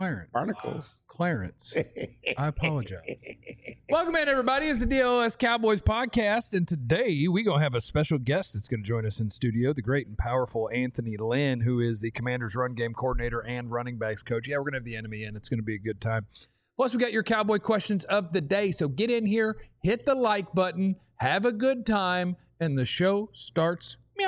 Clarence. Barnacles. Clarence. I apologize. Welcome in, everybody. It's the DLS Cowboys podcast, and today we're going to have a special guest that's going to join us in studio, the great and powerful Anthony Lynn, who is the Commanders run game coordinator and running backs coach. Yeah, we're going to have the enemy in. It's going to be a good time. Plus, we got your Cowboy questions of the day, so get in here, hit the like button, have a good time, and the show starts. Meow.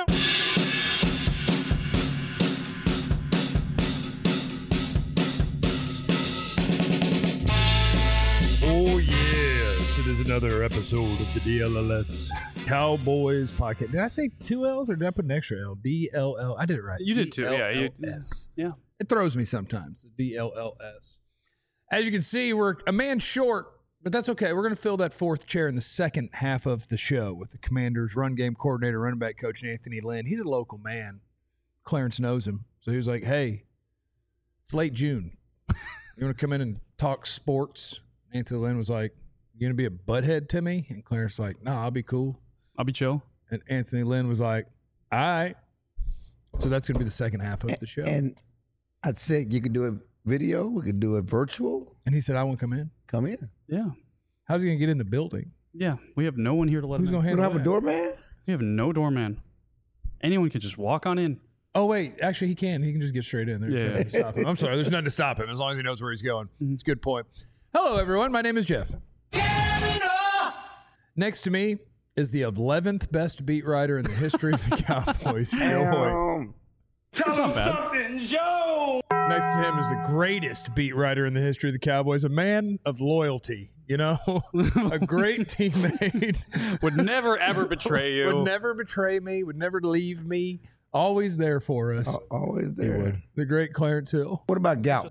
Oh, yes. It is another episode of the DLLS Cowboys podcast. Did I say two L's or did I put an extra L? DLL. I did it right. You did too. Yeah. Yeah. It throws me sometimes. DLLS. As you can see, we're a man short, but that's okay. We're going to fill that fourth chair in the second half of the show with the Commanders run game coordinator, running back coach, Anthony Lynn. He's a local man. Clarence knows him. So he was like, hey, it's late June. You want to come in and talk sports? Anthony Lynn was like, you going to be a butthead to me? And Clarence was like, nah, I'll be cool. I'll be chill. And Anthony Lynn was like, all right. So that's going to be the second half of the show. And I'd say you can do it video. We could do it virtual. And he said, I want to come in. Come in. Yeah. How's he going to get in the building? Yeah. We have no one here to let Who's him going to in. We handle don't have that? a doorman? We have no doorman. Anyone can just walk on in. Oh, wait. Actually, he can. He can just get straight in. There's Yeah. nothing to stop him. I'm sorry. There's nothing to stop him as long as he knows where he's going. It's a good point. Hello, everyone. My name is Jeff. Next to me is the 11th best beat writer in the history of the Cowboys, Joe Hoyt. Tell him something, Joe! Next to him is the greatest beat writer in the history of the Cowboys, a man of loyalty, you know, a great teammate. Would never, ever betray you. Would never betray me, would never leave me, always there for us. Always there. The great Clarence Hill. What about gout?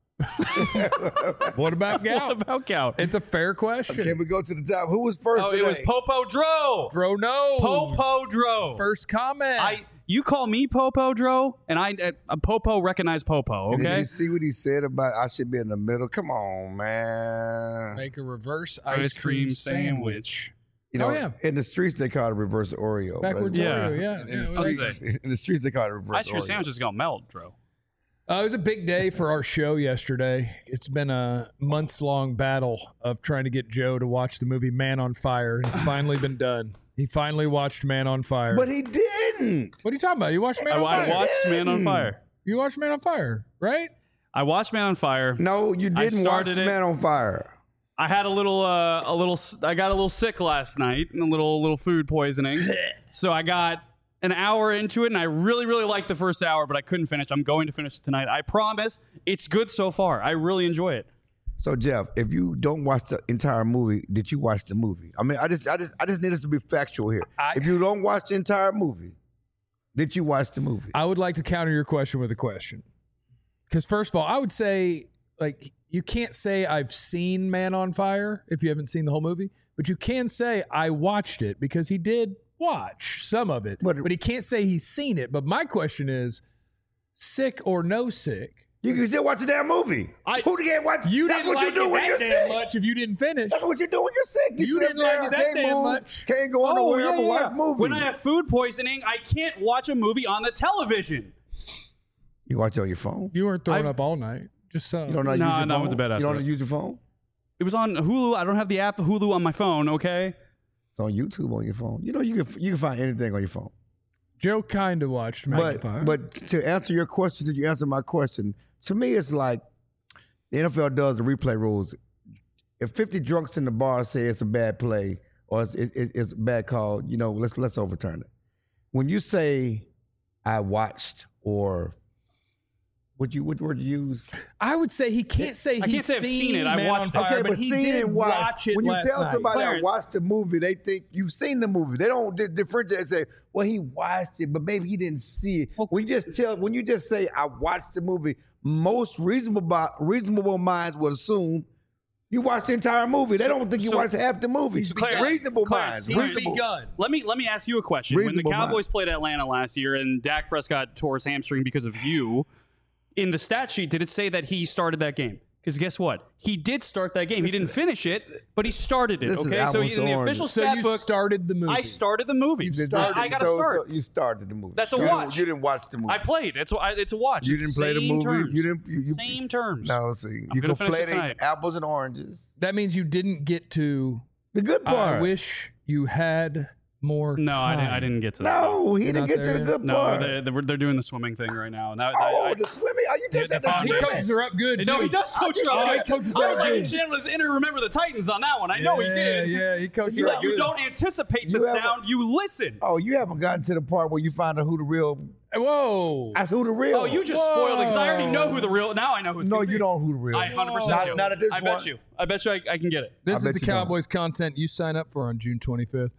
What about gout? What about gout? It's a fair question. Can we go to the top? Who was first Oh, today? it was Popo Dro. Bro, no. Popo Dro. First comment. You call me Popo Dro, and Popo recognize Popo, And Did okay? you see what he said about I should be in the middle? Come on, man. Make a reverse ice cream sandwich. You know, Oh, yeah. in the streets they call it reverse Oreo. Backwards Yeah. Oreo, yeah. In, Yeah, the it was- streets, in the streets they call it reverse Ice cream Oreo. sandwich is going to melt, Dro. It was a big day for our show yesterday. It's been a months-long battle of trying to get Joe to watch the movie Man on Fire, and it's finally been done. He finally watched Man on Fire. But he didn't. What are you talking about? You watched Man on I Fire? watched Man on Fire. You watched Man on Fire, right? I watched Man on Fire. No, you didn't watch started it. Man on Fire. I had I got a little sick last night and a little food poisoning. So I got an hour into it and I really, really liked the first hour, but I couldn't finish. I'm going to finish it tonight. I promise. It's good so far. I really enjoy it. So Jeff, if you don't watch the entire movie, did you watch the movie? I mean, I just need us to be factual here. If you don't watch the entire movie, did you watch the movie? I would like to counter your question with a question. Because first of all, I would say, like, you can't say I've seen Man on Fire if you haven't seen the whole movie, but you can say I watched it because he did watch some of it. But he can't say he's seen it. But my question is, sick or no sick? You can still watch the damn movie. Who can't watch? You That's didn't what like you do it when that you're damn sick. much if you didn't finish. That's what you do when you're sick. You sit didn't up there, like it that can't damn move, much. Can't go nowhere but watch movies. When I have food poisoning, I can't watch a movie on the television. You watch it on your phone? You weren't throwing up all night. Just so. You don't know how to use your phone? I went to bed after You don't know that. how to use your phone? It was on Hulu. I don't have the app Hulu on my phone, okay? It's on YouTube on your phone. You know, you can find anything on your phone. Joe kind of watched Man on Fire. But to answer your question, did you answer my question? To me, it's like the NFL does the replay rules. If 50 drunks in the bar say it's a bad play or it's a bad call, you know, let's overturn it. When you say I watched or what word you use? I would say he can't say I he's can't say I've seen it. I Man watched on it. Fire, Okay, but he seen did and watch it When you last tell night. somebody I Clarence. watched the movie, they think you've seen the movie. They don't differentiate and say, well, he watched it, but maybe he didn't see it. When you just say I watched the movie, most reasonable minds would assume you watched the entire movie. They don't think you watched half the movie. Clarence, Reasonable minds. He's Reasonable. begun. Let me ask you a question. When the Reasonable Cowboys played Atlanta last year and Dak Prescott tore his hamstring because of you, in the stat sheet, did it say that he started that game? Because guess what? He did start that game. He didn't finish it, but he started it. This is Okay, so apples in to the oranges. official So stat you book, started the movie. I started the movie. I got to start. So you started the movie. That's a You didn't- watch. You didn't watch the movie. I played. It's a watch. You It's didn't play the same movie. Terms. You didn't. You, Same terms. No, see, I'm you gonna finish it conflating tonight. apples and oranges. That means you didn't get to. The good part. I wish you had more. No, time. I didn't get to that. No, he You're didn't not get to there the yet? good No, part. they're doing the swimming thing right now. And that, the swimming. Oh, you just said the He swimming. coaches her up good. no, too. he does coach her Oh, up. he I coaches was her up like, good. Chan was in to remember the Titans on that one. I know he did. Yeah, he coaches He's her like, up you good. don't anticipate the You haven't- sound, you listen. Oh, you haven't gotten to the part where you find out who the real. Whoa. That's who the real. Oh, you just spoiled it because I already know who the real. Now I know who it's No, gonna you be. don't know who the real. I 100% Not- do. not at this I point. bet you. I bet you I can get it. This I is bet the you don't. Cowboys content you sign up for on June 25th.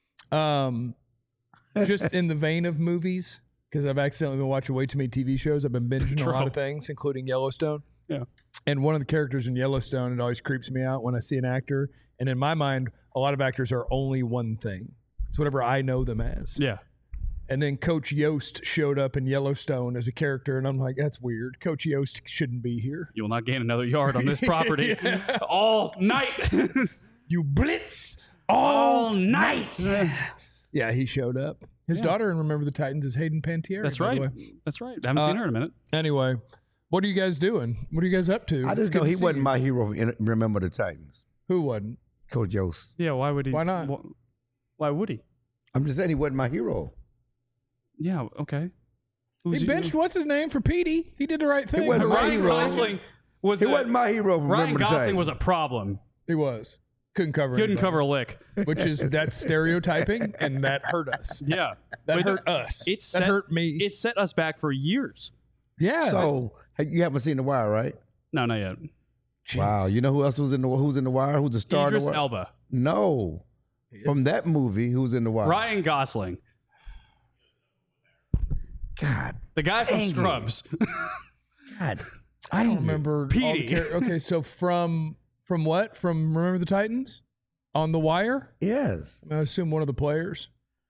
Just in the vein of movies, because I've accidentally been watching way too many TV shows. I've been binging a lot of things, including Yellowstone. Yeah. And one of the characters in Yellowstone, it always creeps me out when I see an actor. And in my mind, a lot of actors are only one thing. It's whatever I know them as. Yeah. And then Coach Yost showed up in Yellowstone as a character, and I'm like, that's weird. Coach Yost shouldn't be here. You will not gain another yard on this property all night. You blitz all night. Yeah, he showed up. His daughter in Remember the Titans is Hayden Panettiere. That's by the right. way. That's right. I haven't seen her in a minute. Anyway, what are you guys doing? What are you guys up to? I It's just good know to he see wasn't you. my hero. Remember the Titans, Who wasn't? Coach Yost. Yeah, why would he? Why not? Why would he? I'm just saying he wasn't my hero. Yeah, okay. He benched what's his name for Petey. He did the right thing. wasn't my Ryan hero. Gosling was He wasn't my hero. From Ryan Remember the Gosling Titans. was a problem. He was. Couldn't cover. Couldn't anybody, cover a lick. which is that's stereotyping, and that hurt us. Yeah, That But hurt us. It that set, hurt me. It set us back for years. Yeah. So you haven't seen The Wire, right? No, not yet. Wow. You know who else was in the Who's in The Wire? Who's the star? Idris of The Wire? Elba, No. From that movie, who's in The Wire? Ryan Gosling, God. the guy from Dang it. Scrubs. God. I don't remember. all the Petey. okay, so from what? From Remember the Titans on The Wire? Yes. I assume one of the players.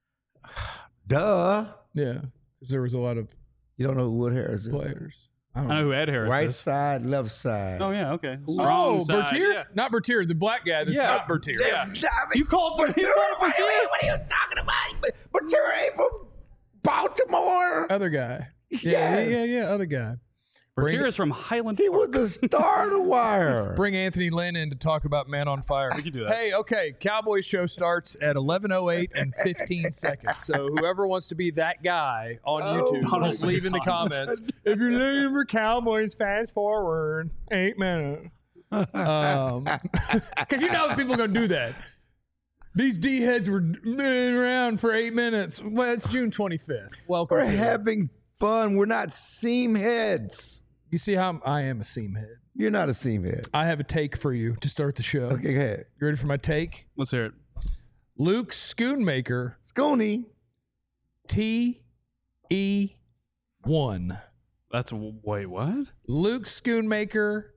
Duh. Yeah, because there was a lot of You don't know who Wood Harris is. players. I don't I know who Ed Harris Right is. side, left side. Oh yeah, okay. Oh, Strong side, Bertier? yeah. Not Bertier, the black guy that's Yeah. not Bertier. Yeah. You called Bertier? What are you talking about? Bertier ain't from Baltimore. Other guy. Yeah, Yes. yeah, other guy. Bertier is from Highland He Park. was the star of The Wire. Bring Anthony Lynn in to talk about Man on Fire. We can do that. Hey, okay, Cowboys show starts at 11:08 and 15 seconds. So whoever wants to be that guy on YouTube, Donald just leave in the Faison. comments. If you're looking for Cowboys, fast forward 8 minutes. Because you know people are going to do that. These D heads were around for 8 minutes. Well, it's June 25th. Welcome. We're to it. having fun. We're not seam heads. You see how I am a seam head. You're not a seam head. I have a take for you to start the show. Okay, go ahead. You ready for my take? Let's hear it. Luke Schoonmaker, Scooney. TE1. That's wait, what? Luke Schoonmaker,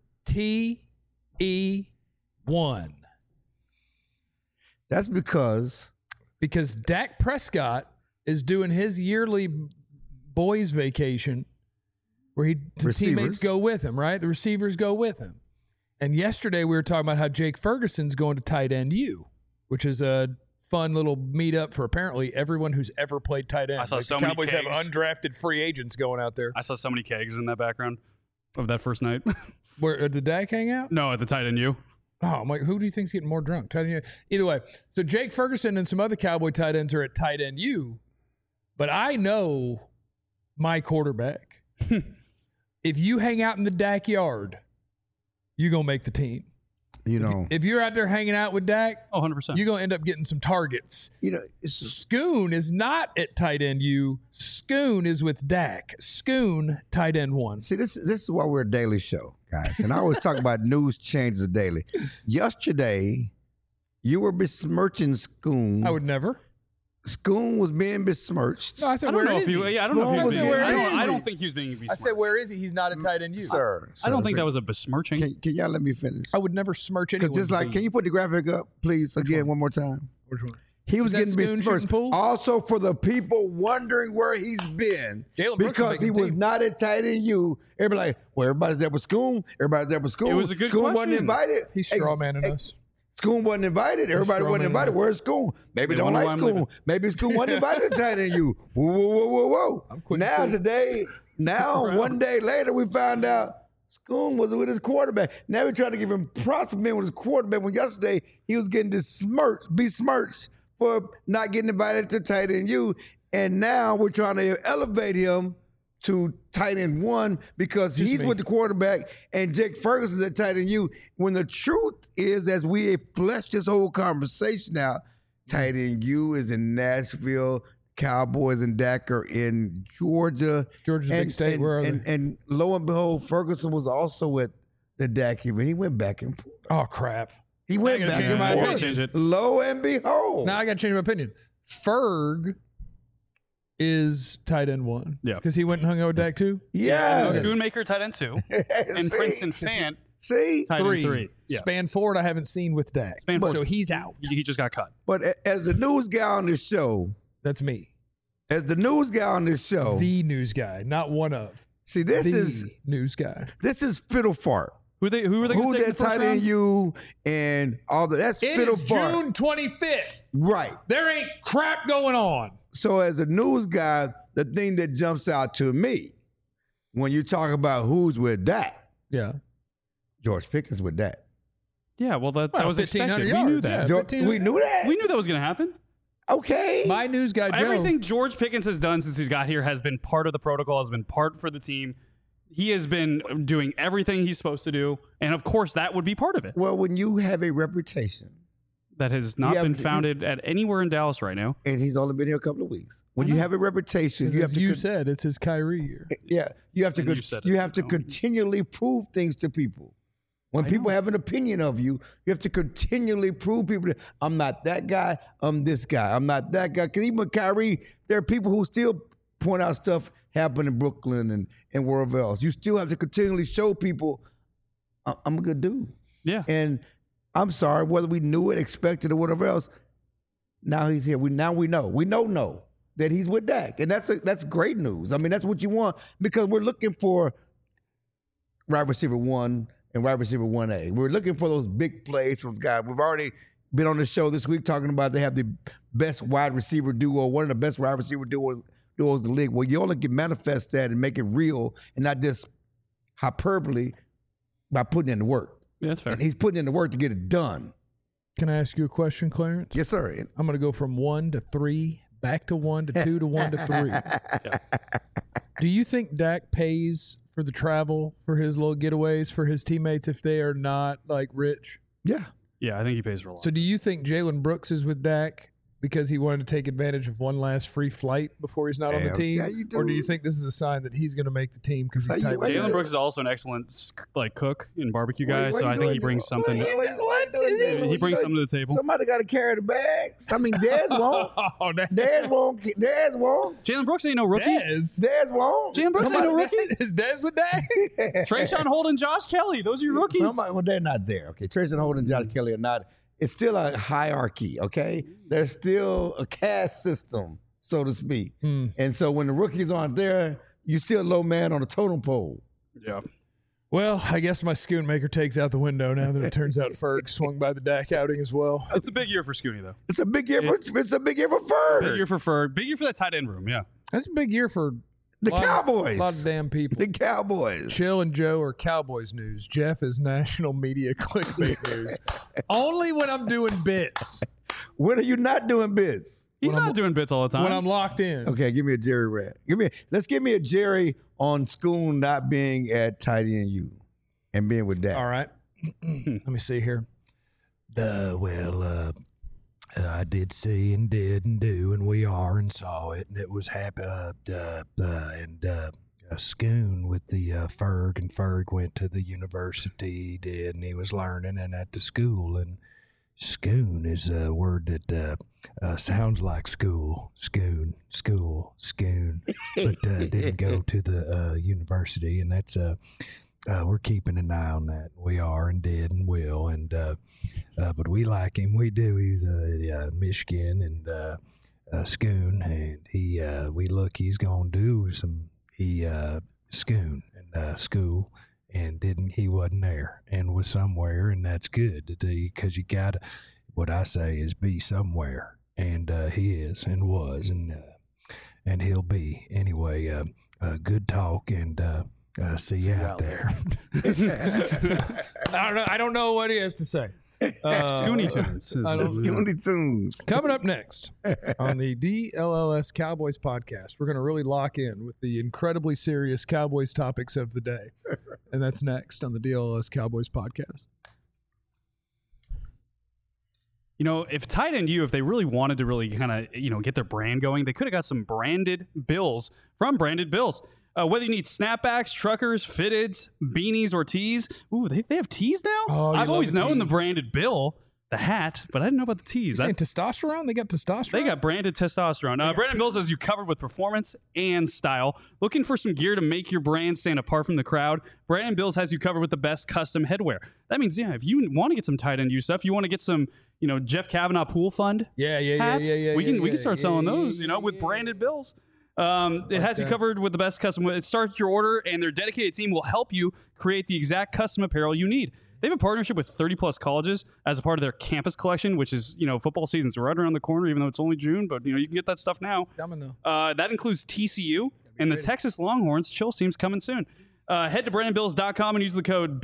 TE1. That's because Because Dak Prescott is doing his yearly boys' vacation where the Receivers. teammates go with him, right? The receivers go with him. And yesterday we were talking about how Jake Ferguson's going to tight end U, which is a fun little meetup for apparently everyone who's ever played tight end. I saw Like so the many Cowboys have kegs. undrafted free agents going out there. I saw so many kegs in that background of that first night. Where did Dak hang out? No, at the tight end U. Oh, I'm like, who do you think's getting more drunk? Tight end U? Either way, so Jake Ferguson and some other Cowboy tight ends are at tight end U, but I know my quarterback. If you hang out in the Dak yard, you're gonna make the team. you know, If you're out there hanging out with Dak, Oh, 100%. you're gonna end up getting some targets. it's Schoon is not at tight end U. Schoon is with Dak. Schoon, tight end 1. see this is why we're a daily show, guys. And I always talk about news changes daily. Yesterday, you were besmirching Scoon. I would never. Scoon was being besmirched. No, I said, I don't where know is if he? he. Yeah, I don't know if he was I said, being. where is I he? don't think he was being. I said, where is he? He's not at tight end U. Sir, I don't think that was a besmirching. Can y'all let me finish? I would never smirch anyone. Because just like, can you put the graphic up, please, again, one more time? Which one? He was Is that getting Schoon shooting besmirched. pool? Also, for the people wondering where he's been, Jalen Brooks because is he making was team. not at tight end U. Everybody like, well, everybody's there with Schoon. Everybody's there with Schoon. It was a good Schoon wasn't question. invited. He's strawmanning us. Schoon wasn't invited. Everybody wasn't strawmanning invited. us. Where's Schoon? Maybe They don't wonder like why I'm Schoon. leaving. Maybe Schoon wasn't invited to tight end U. Whoa, whoa, whoa, whoa, whoa. I'm quitting Now too. today, one day later, we found out Schoon was with his quarterback. Now we're trying to give him props for being with his quarterback when yesterday he was getting besmirched for not getting invited to tight end U. And now we're trying to elevate him to tight end 1 because he's me. with the quarterback and Jake Ferguson's at tight end U. When the truth is, as we fleshed this whole conversation out, tight end U is in Nashville. Cowboys and Dak are in Georgia. Georgia's a big state. Where are they? And lo and behold, Ferguson was also at the Dak event. He went back and forth. Oh, crap. He went gotta back change and my forth. opinion. Change it. Lo and behold. Now I got to change my opinion. Ferg is tight end 1. Yeah. Because he went and hung out with Dak too. yeah. Schoonmaker tight end 2, and See? Princeton Fant See? tight end 3. Yeah. Span forward, I haven't seen with Dak. Span forward. So he's out. He just got cut. But as the news guy on this show, That's me. the The news guy, not one of. see, this The is fiddle fart. Who were they going to Who's take in that the first tight round? end you and all that? That's It fiddle is fart. June 25th. Right. There ain't crap going on. So as a news guy, the thing that jumps out to me when you talk about who's with Dak, Yeah. George Pickens with Dak. Yeah, well, that Well, was 1,500 expected. We knew yards, that. yeah. George, 1500. we knew that. We knew that was going to happen. Okay. My news guy, Joe. Everything George Pickens has done since he's got here has been part of the protocol, has been part for the team. He has been doing everything he's supposed to do, and of course, that would be part of it. Well, when you have a reputation, That has not Yeah, been but founded at anywhere in Dallas right now. and he's only been here a couple of weeks, when you have a reputation, As you have to said, it's his Kyrie year. you have to And you said it, you have to so. continually prove things to people. When people have an opinion of you, you have to continually prove people that I'm not that guy, I'm this guy, I'm not that guy. Because even with Kyrie, there are people who still point out stuff happened in Brooklyn and wherever else. You still have to continually show people I'm a good dude. Yeah. And I'm sorry, whether we knew it, expected, or whatever else, now he's here. We know that he's with Dak. And that's great news. I mean, that's what you want because we're looking for wide receiver 1 and wide receiver 1A. We're looking for those big plays from guys. We've already been on the show this week talking about they have the best wide receiver duo, one of the best wide receiver duos in the league. Well, you only can manifest that and make it real and not just hyperbole by putting in the work. Yeah, that's fair. And he's putting in the work to get it done. Can I ask you a question, Clarence? Yes, sir. I'm going to go from 1 to 3, back to 1 to 2 to 1 to 3. Do you think Dak pays for the travel for his little getaways for his teammates if they are not like rich? Yeah. Yeah, I think he pays for a lot. So do you think Jalen Brooks is with Dak because he wanted to take advantage of one last free flight before he's not on the Damn, see team? how you Or do do. you think this is a sign that he's going to make the team because he's How you- tight with why you- Jalen Brooks is also an excellent cook and barbecue guy, so I think he brings something. He brings something to the table. Somebody got to carry the bags. I mean, Dez won't. Oh, Dez won't. Dez won't. Jalen Brooks ain't no rookie. Dez. Dez won't. Jalen Brooks ain't no rookie. Is Dez with Dak? Trayshawn Holden, Josh Kelly, those are your rookies. Somebody, well, they're not there. Okay, Tracy Holden and Josh Kelly are not. It's still a hierarchy. Okay, there's still a caste system, so to speak. And so when the rookies aren't there, you're still a low man on the totem pole. Yeah. Well, I guess my Schoonmaker takes out the window now that it turns out Ferg swung by the Dak outing as well. It's a big year for Scooney, though. It's a big year. It's a big year for Ferg. Big year for Ferg. Big year for that tight end room, yeah. That's a big year for The lot Cowboys. A lot of damn people. The Cowboys. Chill and Joe are Cowboys news. Jeff is national media clickbait news. Only when I'm doing bits. When are you not doing bits? He's not doing bits all the time. When I'm locked in. Okay, give me a Jerry rant. Let's give me a Jerry on Schoon not being at tight end U and being with Dak. All right. Let me see here. I did see and did and do, and we are and saw it, and it was happy. Schoon with the Ferg, and Ferg went to the university, did, and he was learning and at the school, and Schoon is a word that sounds like school, schoon, but didn't go to the university, and that's we're keeping an eye on that. We are and did and will. And but we like him. We do. He's Michigan and Schoon, and he's gonna do some Schoon and school, and he wasn't there and was somewhere, and that's good because you gotta, what I say is be somewhere, and he is and was and he'll be anyway. Good talk, and see you out there. I don't know what he has to say. Scoony Tunes. Scoony Tunes. Coming up next on the DLLS Cowboys podcast, we're going to really lock in with the incredibly serious Cowboys topics of the day. And that's next on the DLLS Cowboys podcast. You know, if Tight End U, if they really wanted to really kind of, get their brand going, they could have got some branded bills from Branded Bills. Whether you need snapbacks, truckers, fitteds, beanies, or tees. Ooh, they have tees now? Oh, I've always known tee. the Branded Bill, the hat, but I didn't know about the tees. You saying testosterone? They got testosterone? They got branded testosterone. Branded Bills has you covered with performance and style. Looking for some gear to make your brand stand apart from the crowd? Branded Bills has you covered with the best custom headwear. That means, if you want to get some Tight End U stuff, you want to get some, Jeff Kavanaugh Pool Fund hats, we can start selling those, with Branded Bills. It has you covered with the best custom. It starts your order, and their dedicated team will help you create the exact custom apparel you need. They have a partnership with 30-plus colleges as a part of their campus collection, which is, football season's right around the corner, even though it's only June. But, you can get that stuff now. It's coming though. That includes TCU and the Texas Longhorns. Chill team's coming soon. Head to brandonbills.com and use the code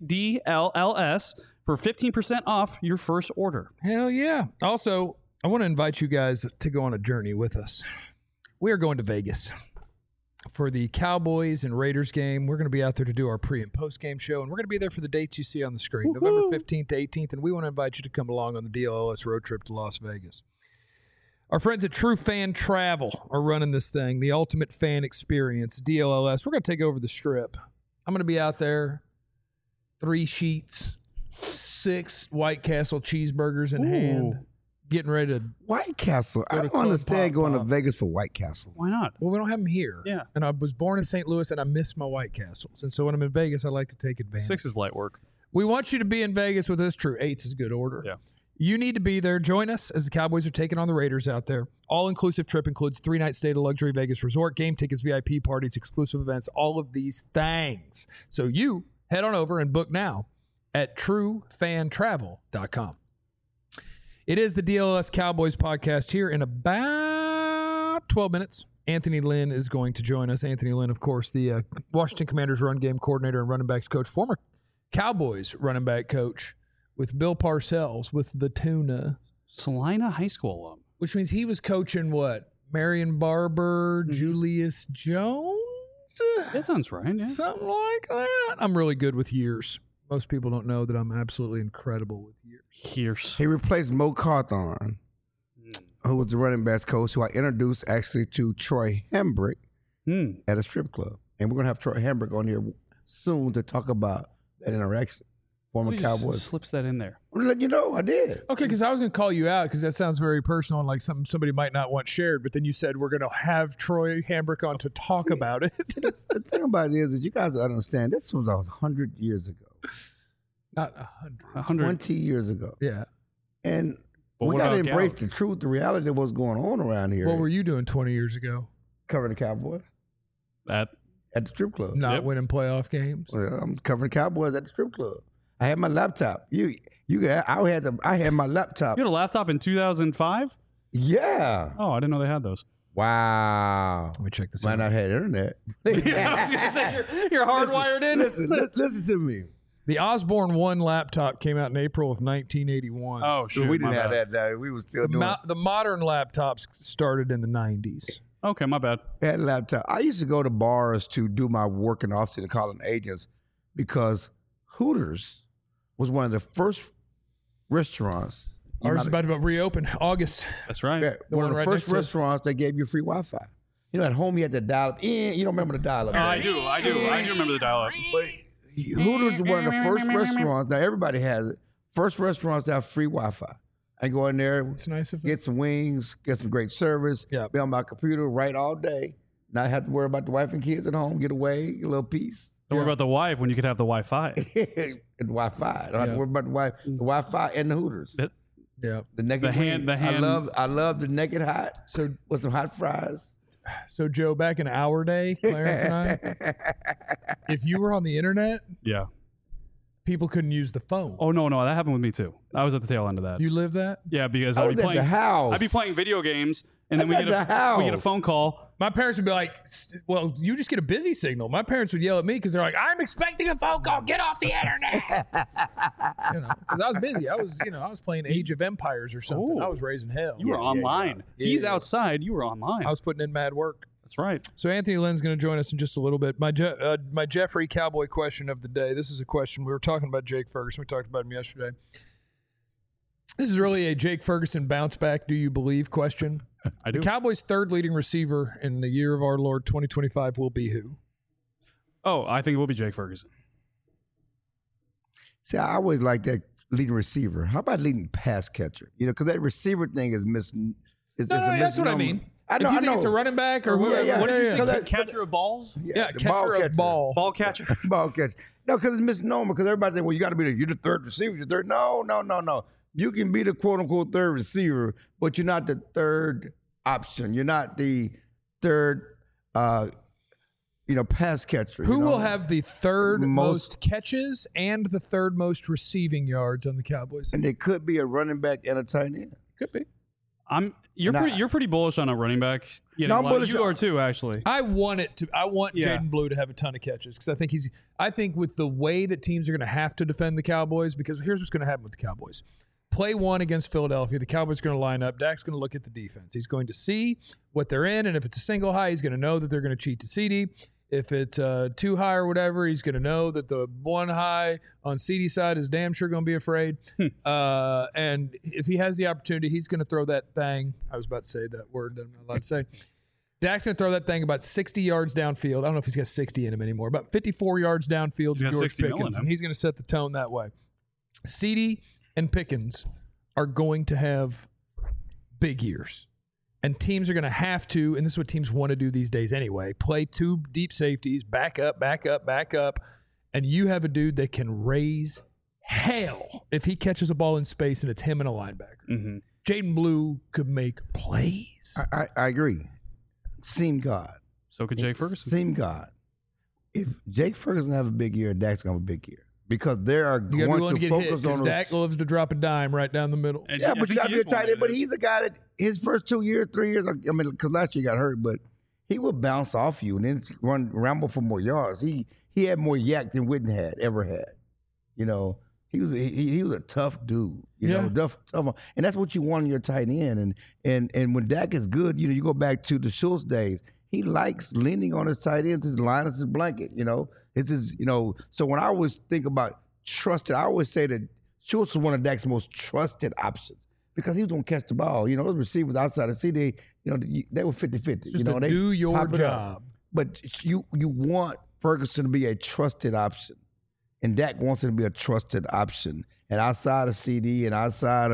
BBDLLS for 15% off your first order. Hell yeah. Also, I want to invite you guys to go on a journey with us. We are going to Vegas for the Cowboys and Raiders game. We're going to be out there to do our pre- and post-game show, and we're going to be there for the dates you see on the screen, November 15th to 18th, and we want to invite you to come along on the DLLS road trip to Las Vegas. Our friends at True Fan Travel are running this thing, the ultimate fan experience, DLLS. We're going to take over the Strip. I'm going to be out there, 3 sheets, 6 White Castle cheeseburgers in hand. Getting ready to White Castle. I Go to don't understand Club going Pop to Vegas for White Castle. Why not? Well, we don't have them here. Yeah. And I was born in St. Louis, and I miss my White Castles. And so when I'm in Vegas, I like to take advantage. 6 is light work. We want you to be in Vegas with us. True. 8 is a good order. Yeah. You need to be there. Join us as the Cowboys are taking on the Raiders out there. All-inclusive trip includes 3-night stay at a luxury Vegas resort, game tickets, VIP parties, exclusive events, all of these things. So you head on over and book now at truefantravel.com. It is the DLLS Cowboys podcast here in about 12 minutes. Anthony Lynn is going to join us. Anthony Lynn, of course, the Washington Commanders run game coordinator and running backs coach, former Cowboys running back coach with Bill Parcells with the Tuna. Salina High School alum. Which means he was coaching what? Marion Barber, Julius Jones? That sounds right, yeah. Something like that. I'm really good with years. Most people don't know that I'm absolutely incredible with years. He replaced Mo Cawthorn, who was the running backs coach, who I introduced actually to Troy Hambrick at a strip club. And we're going to have Troy Hambrick on here soon to talk about that interaction. Former Cowboys. Slips that in there. I'm letting you know, I did. Okay, because I was going to call you out because that sounds very personal and like something somebody might not want shared. But then you said we're going to have Troy Hambrick on to talk about it. The thing about it is that you guys understand this was 100 years ago. Not 100. 20 years ago. Yeah. And But we what got to about embrace Gallup? the truth, the reality of what's going on around here. What were you doing 20 years ago? Covering the Cowboys That at the strip club. Not winning playoff games? Well, I'm covering the Cowboys at the strip club. I had my laptop. I had my laptop. You had a laptop in 2005? Yeah. Oh, I didn't know they had those. Wow. Let me check this Might out. not have internet. I was going to say, you're hardwired in. Listen to me. The Osborne 1 laptop came out in April of 1981. Oh, shoot. we didn't my have bad. that. We was still doing. The modern laptops started in the 90s. Okay, my bad. I had a laptop. I used to go to bars to do my work in Austin and calling agents because Hooters was one of the first restaurants. Ours is about to reopen August. That's right. Yeah, The one one of the right first next to us. restaurants that gave you free Wi-Fi. You know, at home you had to dial up in. You don't remember the dial up? I do remember the dial-up. But Hooters was one of the first restaurants. Now everybody has it. First restaurants that have free Wi-Fi. I go in there, It's nice of them. get some wings, get some great service. Yeah. Be on my computer, write all day. Not have to worry about the wife and kids at home. Get away, get a little peace. Don't worry about the wife when you could have the Wi-Fi. And Wi-Fi. I don't have to worry about the Wi-Fi and the Hooters. Yeah. The naked The hand- wing. the hand- I love the naked hot. So With some hot fries. So, Joe, back in our day, Clarence and I, if you were on the internet, Yeah. people couldn't use the phone. Oh no, that happened with me too. I was at the tail end of that. You live that? Yeah, because I I'd was be at playing the house. I'd be playing video games, and then I was we get at the we get a house. phone call. My parents would be like, well, you just get a busy signal. My parents would yell at me because they're like, I'm expecting a phone call. Get off the internet. Because I was busy. I was playing Age of Empires or something. Ooh. I was raising hell. You were online. Yeah. He's Yeah. outside. You were online. I was putting in mad work. That's right. So Anthony Lynn's going to join us in just a little bit. My Jeffrey Cowboy question of the day. This is a question. We were talking about Jake Ferguson. We talked about him yesterday. This is really a Jake Ferguson bounce back, do you believe question. I do. The Cowboys' third leading receiver in the year of our Lord 2025 will be who? Oh, I think it will be Jake Ferguson. See, I always like that leading receiver. How about leading pass catcher? You know, because that receiver thing is missing. No, that's what I mean. I know. If you I think know. it's a running back or whoever. yeah. What did you yeah. say? Catcher of balls? Yeah, the catcher of ball. Ball catcher? Ball catcher. No, because it's misnomer. Because everybody think, well, you got to be you're the third receiver. You're third. No. You can be the quote unquote third receiver, but you're not the third option. You're not the third, pass catcher. Who you know? will have the third Most- most catches and the third most receiving yards on the Cowboys? And they could be a running back and a tight end. Could be. You're pretty bullish on a running back. No, I'm bullish You on- are too, actually. I want Yeah. Jaden Blue to have a ton of catches because I think with the way that teams are going to have to defend the Cowboys, because here's what's going to happen with the Cowboys. Play one against Philadelphia, the Cowboys are going to line up. Dak's going to look at the defense. He's going to see what they're in, and if it's a single high, he's going to know that they're going to cheat to CD. If it's two high or whatever, he's going to know that the one high on CD side is damn sure going to be afraid. And if he has the opportunity, he's going to throw that thing. I was about to say that word that I'm not allowed to say. Dak's going to throw that thing about 60 yards downfield. I don't know if he's got 60 in him anymore. About 54 yards downfield to got George 60 mil in Pickens, him. and he's going to set the tone that way. CD and Pickens are going to have big years. And teams are going to have to, and this is what teams want to do these days anyway, play two deep safeties, back up, and you have a dude that can raise hell if he catches a ball in space and it's him and a linebacker. Mm-hmm. Jaden Blue could make plays. I agree. Seem God. So could Jake Ferguson. Seem God. If Jake Ferguson have a big year, Dak's gonna have a big year because they are You got to be going willing to to get hit focus because on. Dak loves to drop a dime right down the middle. And Yeah, I but you think got to he be a is one tight end. of But it. he's a guy that his first 2 years, 3 years. I mean, because last year he got hurt, but he would bounce off you and then ramble for more yards. He had more yak than Witten ever had. You know, he was a tough dude. You know, tough, and that's what you want in your tight end. And when Dak is good, you know, you go back to the Schultz days. He likes leaning on his tight end. His line is his blanket. You know, it's his. You know, so when I always think about trusted, I always say that Schultz was one of Dak's most trusted options because he was going to catch the ball. You know, those receivers outside of CD, you know, they were 50-50. Just you know, to do your pop it up. job. But you want Ferguson to be a trusted option. And Dak wants him to be a trusted option. And outside of CD and outside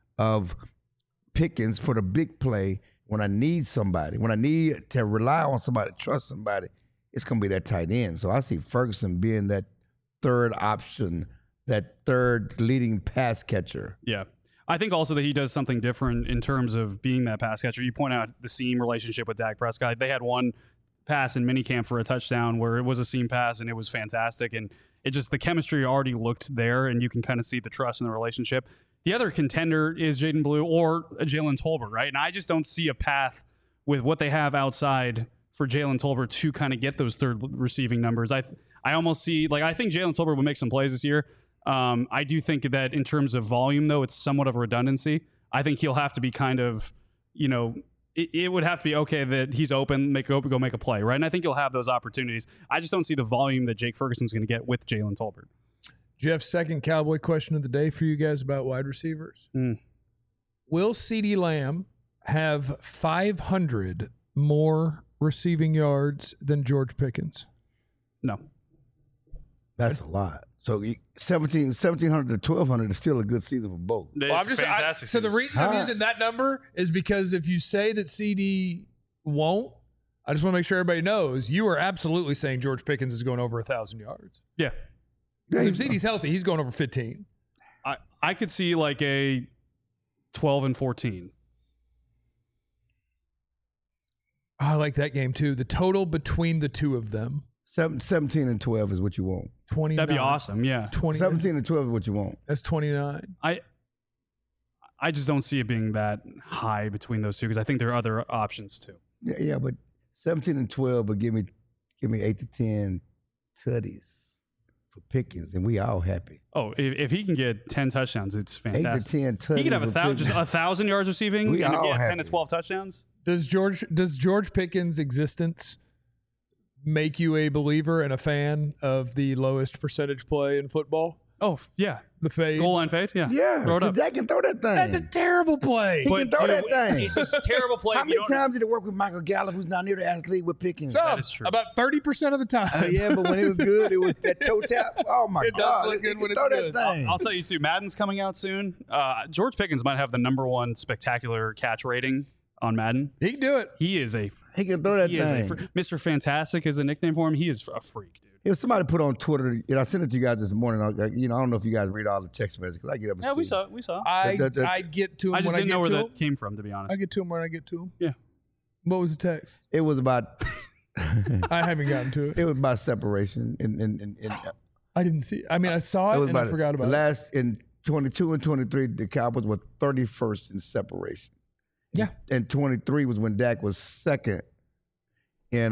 of Pickens for the big play, when I need somebody, when I need to rely on somebody, trust somebody, it's going to be that tight end. So I see Ferguson being that third option, that third leading pass catcher. Yeah. I think also that he does something different in terms of being that pass catcher. You point out the seam relationship with Dak Prescott. They had one pass in minicamp for a touchdown where it was a seam pass and it was fantastic. And it just, the chemistry already looked there and you can kind of see the trust in the relationship. The other contender is Jaden Blue or Jalen Tolbert, right? And I just don't see a path with what they have outside for Jalen Tolbert to kind of get those third receiving numbers. I almost see, like, I think Jalen Tolbert will make some plays this year. I do think that in terms of volume, though, it's somewhat of a redundancy. I think he'll have to be kind of, you know, it would have to be okay that he's open, go make a play, right? And I think he'll have those opportunities. I just don't see the volume that Jake Ferguson's going to get with Jalen Tolbert. Jeff's second Cowboy question of the day for you guys about wide receivers. Will CeeDee Lamb have 500 more receiving yards than George Pickens? No. That's a lot. So 1,700 to 1,200 is still a good season for both. It's fantastic. So the reason I'm using that number is because if you say that CD won't, I just want to make sure everybody knows you are absolutely saying George Pickens is going over 1,000 yards. Yeah. If CD's healthy, he's going over 15. I could see like a 12 and 14. I like that game too. The total between the two of them. 17 and 12 is what you want. 29. That'd be awesome. Yeah. 17 and 12 is what you want. That's 29. I just don't see it being that high between those two because I think there are other options too. Yeah, but 17 and 12, but give me 8 to 10 tutties for Pickens, and we all happy. Oh, if he can get 10 touchdowns, it's 8 fantastic. to 10 tutties. He could have with 1,000 yards receiving We and all get 10 happy. to 12 touchdowns. Does George Pickens' existence make you a believer and a fan of the lowest percentage play in football? Oh, yeah. The fade. Goal line fade? Yeah. Yeah, Throw it up. Dak can throw that thing. That's a terrible play. He can throw that thing. It's a terrible play. How if you many don't- times did it work with Michael Gallup, who's not near the athlete with Pickens? Some, is true. about 30% of the time. Yeah, but when it was good, it was that toe tap. Oh my It does God! look He good can when it's throw good. that thing. I'll tell you too, Madden's coming out soon. George Pickens might have the #1 spectacular catch rating on Madden. He can do it. He is a He can throw that he is a thing. Mr. Fantastic is a nickname for him. He is a freak, dude. If somebody put on Twitter, and I sent it to you guys this morning. I don't know if you guys read all the text messages because I get up and Yeah, see. we saw it. We saw it. I get to him I just when I didn't get know where to that him. came from, to be honest. I get to him when I get to him. Yeah. What was the text? It was about. I haven't gotten to it. It was about separation, and I didn't see it. I mean, I saw it it was and I about forgot about it. last in 22 and 23. The Cowboys were 31st in separation. Yeah. And 23 was when Dak was second in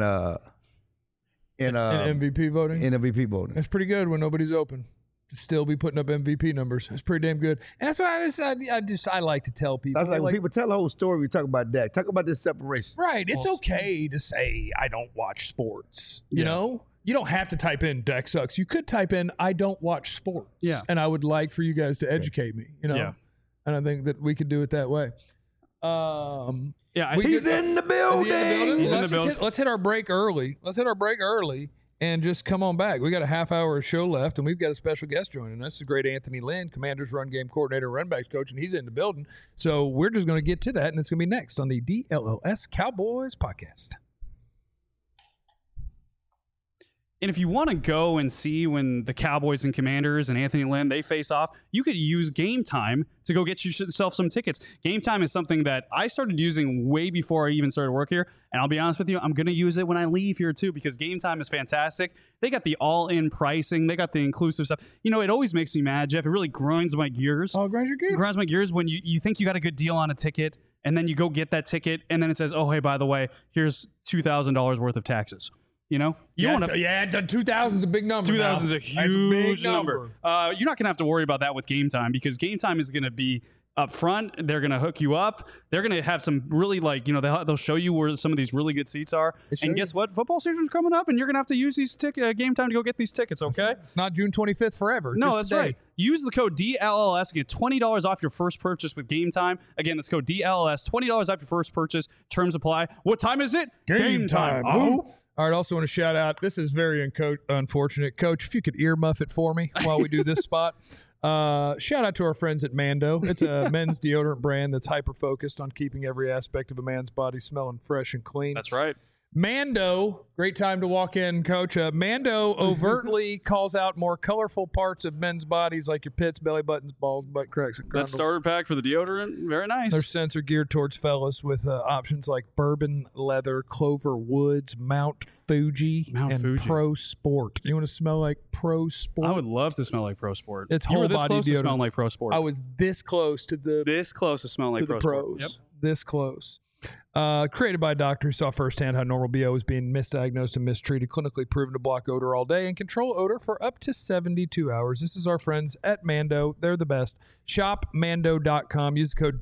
MVP voting. MVP voting. That's pretty good when nobody's open. To still be putting up MVP numbers. That's pretty damn good. And that's why I like to tell people. I was like, when people tell the whole story, we talk about Dak. Talk about this separation. right, it's okay to say I don't watch sports. You Yeah. know? You don't have to type in Dak sucks. You could type in I don't watch sports. Yeah. And I would like for you guys to educate me, you know? Yeah. And I think that we could do it that way. Yeah, He's in the building. Is he in the building? He's in Let's the just building. let's hit our break early. And just come on back. We got a half hour of show left, and we've got a special guest joining us. The great Anthony Lynn, Commanders run game coordinator, run backs coach, and he's in the building. So we're just going to get to that, and it's going to be next on the DLLS Cowboys podcast. And if you want to go and see when the Cowboys and Commanders and Anthony Lynn, they face off, you could use Game Time to go get yourself some tickets. Game Time is something that I started using way before I even started work here. And I'll be honest with you, I'm going to use it when I leave here too because Game Time is fantastic. They got the all-in pricing. They got the inclusive stuff. You know, it always makes me mad, Jeff. It really grinds my gears. Oh, grind your gears. It grinds my gears when you think you got a good deal on a ticket and then you go get that ticket and then it says, oh, hey, by the way, here's $2,000 worth of taxes. You know, you Yes, want to. yeah, 2,000 is a big number. 2,000 is a That's huge big number. You're not going to have to worry about that with Game Time because Game Time is going to be up front. They're going to hook you up. They're going to have some really they'll show you where some of these really good seats are. show And you. guess what? Football season's coming up and you're going to have to use these Game Time to go get these tickets, okay? It's not June 25th forever. No, just that's today. right. Use the code DLLS to get $20 off your first purchase with Game Time. Again, that's code DLLS, $20 off your first purchase. Terms apply. What time is it? Game time. Oh. All right, also want to shout out, this is very unfortunate. Coach, if you could earmuff it for me while we do this spot. Shout out to our friends at Mando. It's a men's deodorant brand that's hyper-focused on keeping every aspect of a man's body smelling fresh and clean. That's right. Mando, great time to walk in, Coach. Mando overtly calls out more colorful parts of men's bodies like your pits, belly buttons, balls, butt cracks, and That grundles. starter pack for the deodorant, very nice. Their scents are geared towards fellas with options like bourbon leather, Clover Woods, Mount Fuji, and Fuji. Pro Sport. You want to smell like Pro Sport? I would love to smell like Pro Sport. It's You were whole this body close to deodorant. smelling like Pro Sport. I was this close to the this close to smelling like to the Pro pros. Sport. Yep. This close. Created by a doctor who saw firsthand how normal BO is being misdiagnosed and mistreated, clinically proven to block odor all day and control odor for up to 72 hours. This is our friends at Mando. They're the best. ShopMando.com. Use the code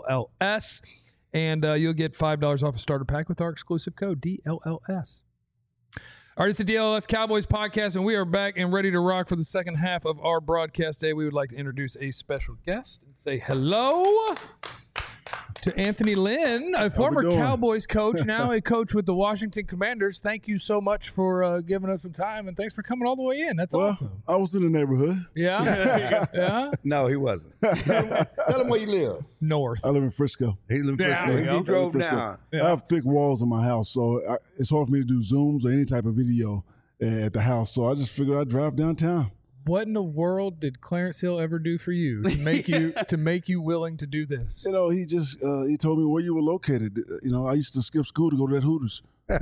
DLLS, and you'll get $5 off a starter pack with our exclusive code DLLS. All right, it's the DLLS Cowboys podcast, and we are back and ready to rock for the second half of our broadcast day. We would like to introduce a special guest and say hello to Anthony Lynn, a former Cowboys coach, now a coach with the Washington Commanders. Thank you so much for giving us some time, and thanks for coming all the way in. That's awesome. I was in the neighborhood. Yeah? Yeah? No, he wasn't. Tell him where you live. North. I live in Frisco. He lived in Yeah, Frisco. there you He go. drove Frisco. down. I have thick walls in my house, so it's hard for me to do Zooms or any type of video at the house. So I just figured I'd drive downtown. What in the world did Clarence Hill ever do for you to make you willing to do this? You know, he just he told me where you were located. You know, I used to skip school to go to that Hooters. They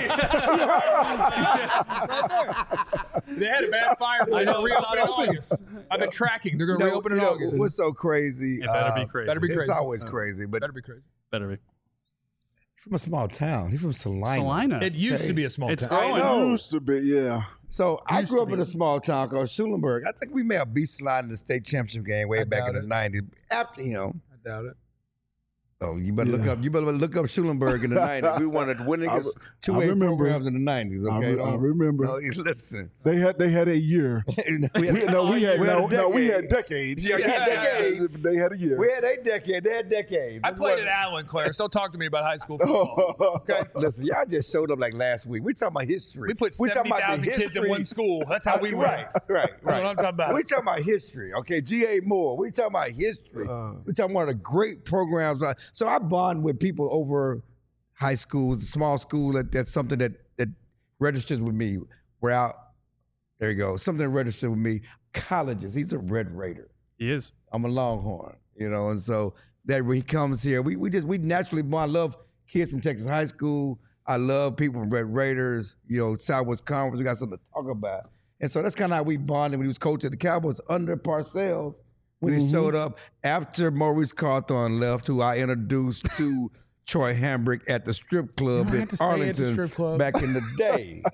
had a bad fire. They're going to reopen in August. I've been tracking. They're going to reopen in August. What's so crazy? It better be crazy. Better be It's crazy. always crazy, but Better be crazy. Better be. he's from a small town. He's from Salina. Salina. It used to be a small It's town. growing. know. Used to be, yeah. So I Used grew to up be. in a small town called Schulenburg. I think we may have beat Salina in the state championship game way I back in doubt the '90s. After him, I doubt it. oh, you better look up. You better look up Schulenburg in the '90s. We won the winningest I two-way remember. programs in the '90s. Okay, I remember. No, listen. They had a year. we had We had decades. Yeah, we had decades. They had a year. We had a decade. They had decades. I played at Allen, Clarence. Don't talk to me about high school football. Okay? Listen, y'all just showed up like last week. We talking about history. We put We talking about the 70,000 kids in history. one school. That's how we win. Right. That's what I'm talking about. We talking about history, okay? G.A. Moore. We talking about history. We talking about the great programs. So I bond with people over high schools, small school. That's something that registers with me. We're out. There you go. Something that registers with me. Colleges. He's a Red Raider. He is. I'm a Longhorn, and so that when he comes here, we naturally bond. I love kids from Texas high school. I love people from Red Raiders, Southwest Conference. We got something to talk about. And so that's kind of how we bonded when he was coaching the Cowboys under Parcells when he showed up after Maurice Carthon left, who I introduced to Troy Hambrick at the strip club You don't in have to say at the Arlington strip club. back in the day.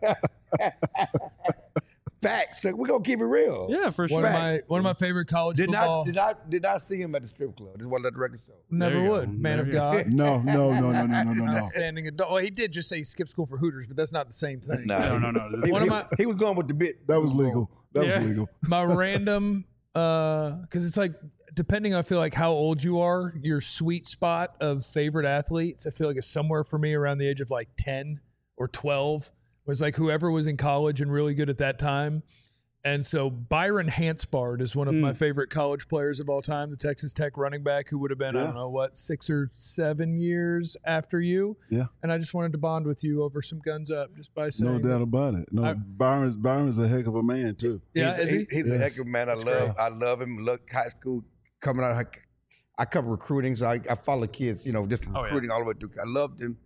Facts. So we're gonna keep it real. Yeah, for sure. One of my favorite college Did football. not see him at the strip club. Just want to let the record show. Never There you would. go. Man There of you go. God. No. Outstanding adult. Well, he did just say he skipped school for Hooters, but that's not the same thing. No. He, One of he- my- he was going with the bit. That was legal. That Yeah. was legal. My random, because it's like, depending on, I feel like how old you are, your sweet spot of favorite athletes, I feel like it's somewhere for me around the age of like 10 or 12, was like whoever was in college and really good at that time. And so Byron Hansbard is one of my favorite college players of all time, the Texas Tech running back who would have been, I Yeah. don't know, 6 or 7 years after you. Yeah. And I just wanted to bond with you over some guns up just by saying. No doubt about it. No, Byron's a heck of a man too. Yeah, is he? He's a heck of a man. I love him. Look, high school coming out. I cover recruiting, so I follow kids. Just from recruiting all the way through. I loved him.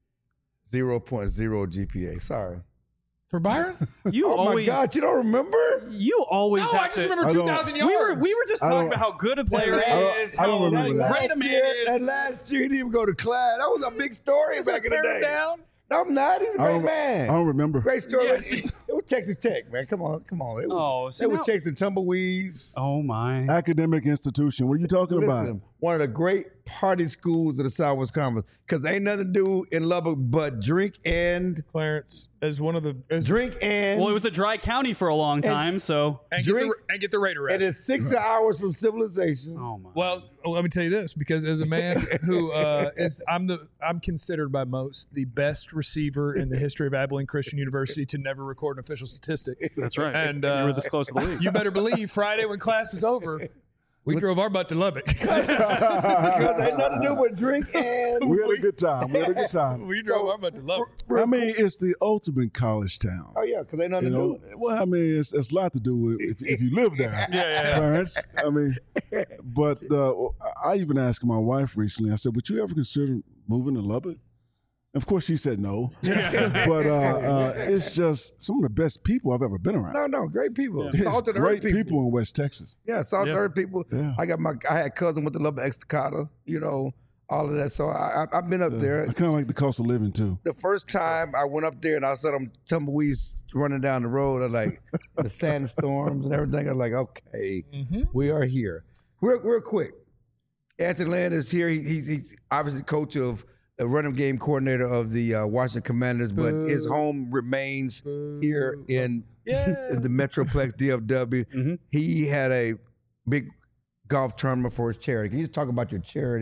0.0 GPA. Sorry. For Byron? You Oh always, my God! You don't remember? you always No, have I just to. remember I don't- 2,000 we yards. were just I talking don't- about how good a player That is. I don't how remember that. great a man is. That last year he didn't even go to class. That was a big story back in the Tear him day. down. No, I'm not. He's a I great don't, man. I don't remember. Great story. Yeah, It was Texas Tech, man. Come on. It was, see they were now- chasing tumbleweeds. Oh my! Academic institution. What are you talking about? Listen, one of the great party schools of the Southwest Conference, because ain't nothing to do in Lubbock but drink and Clarence as one of the Well, it was a dry county for a long time, so. and drink- get the Raider and it's 6 hours from civilization. Oh my! Well, let me tell you this, because as a man who I'm considered by most the best receiver in the history of Abilene Christian University to never record an official statistic. That's right. And you were this close to the league. You better believe Friday when class was over, we drove our butt to Lubbock. Because ain't nothing to do but drink and We had a good time. We drove our butt to Lubbock. I mean, it's the ultimate college town. Oh yeah, because ain't nothing You to know, do. well, I mean, it's a lot to do with if you live there, Clarence. I mean, but I even asked my wife recently. I said, "Would you ever consider moving to Lubbock?" Of course, she said no. But it's just some of the best people I've ever been around. No, great people. It's Salt of the great earth people in West Texas. Yeah, Salt of the earth people. Yeah. I had a cousin with the Lubbock Estacada, all of that. So I've been up there. I kind of like the cost of living too. The first time I went up there and I saw them tumbleweeds running down the road, I like the sandstorms and everything. I was like, okay, we are here. Real quick. Anthony Lynn is here. He's obviously coach of a running game coordinator of the Washington Commanders, but his home remains here in the Metroplex DFW. He had a big golf tournament for his charity. Can you just talk about your charity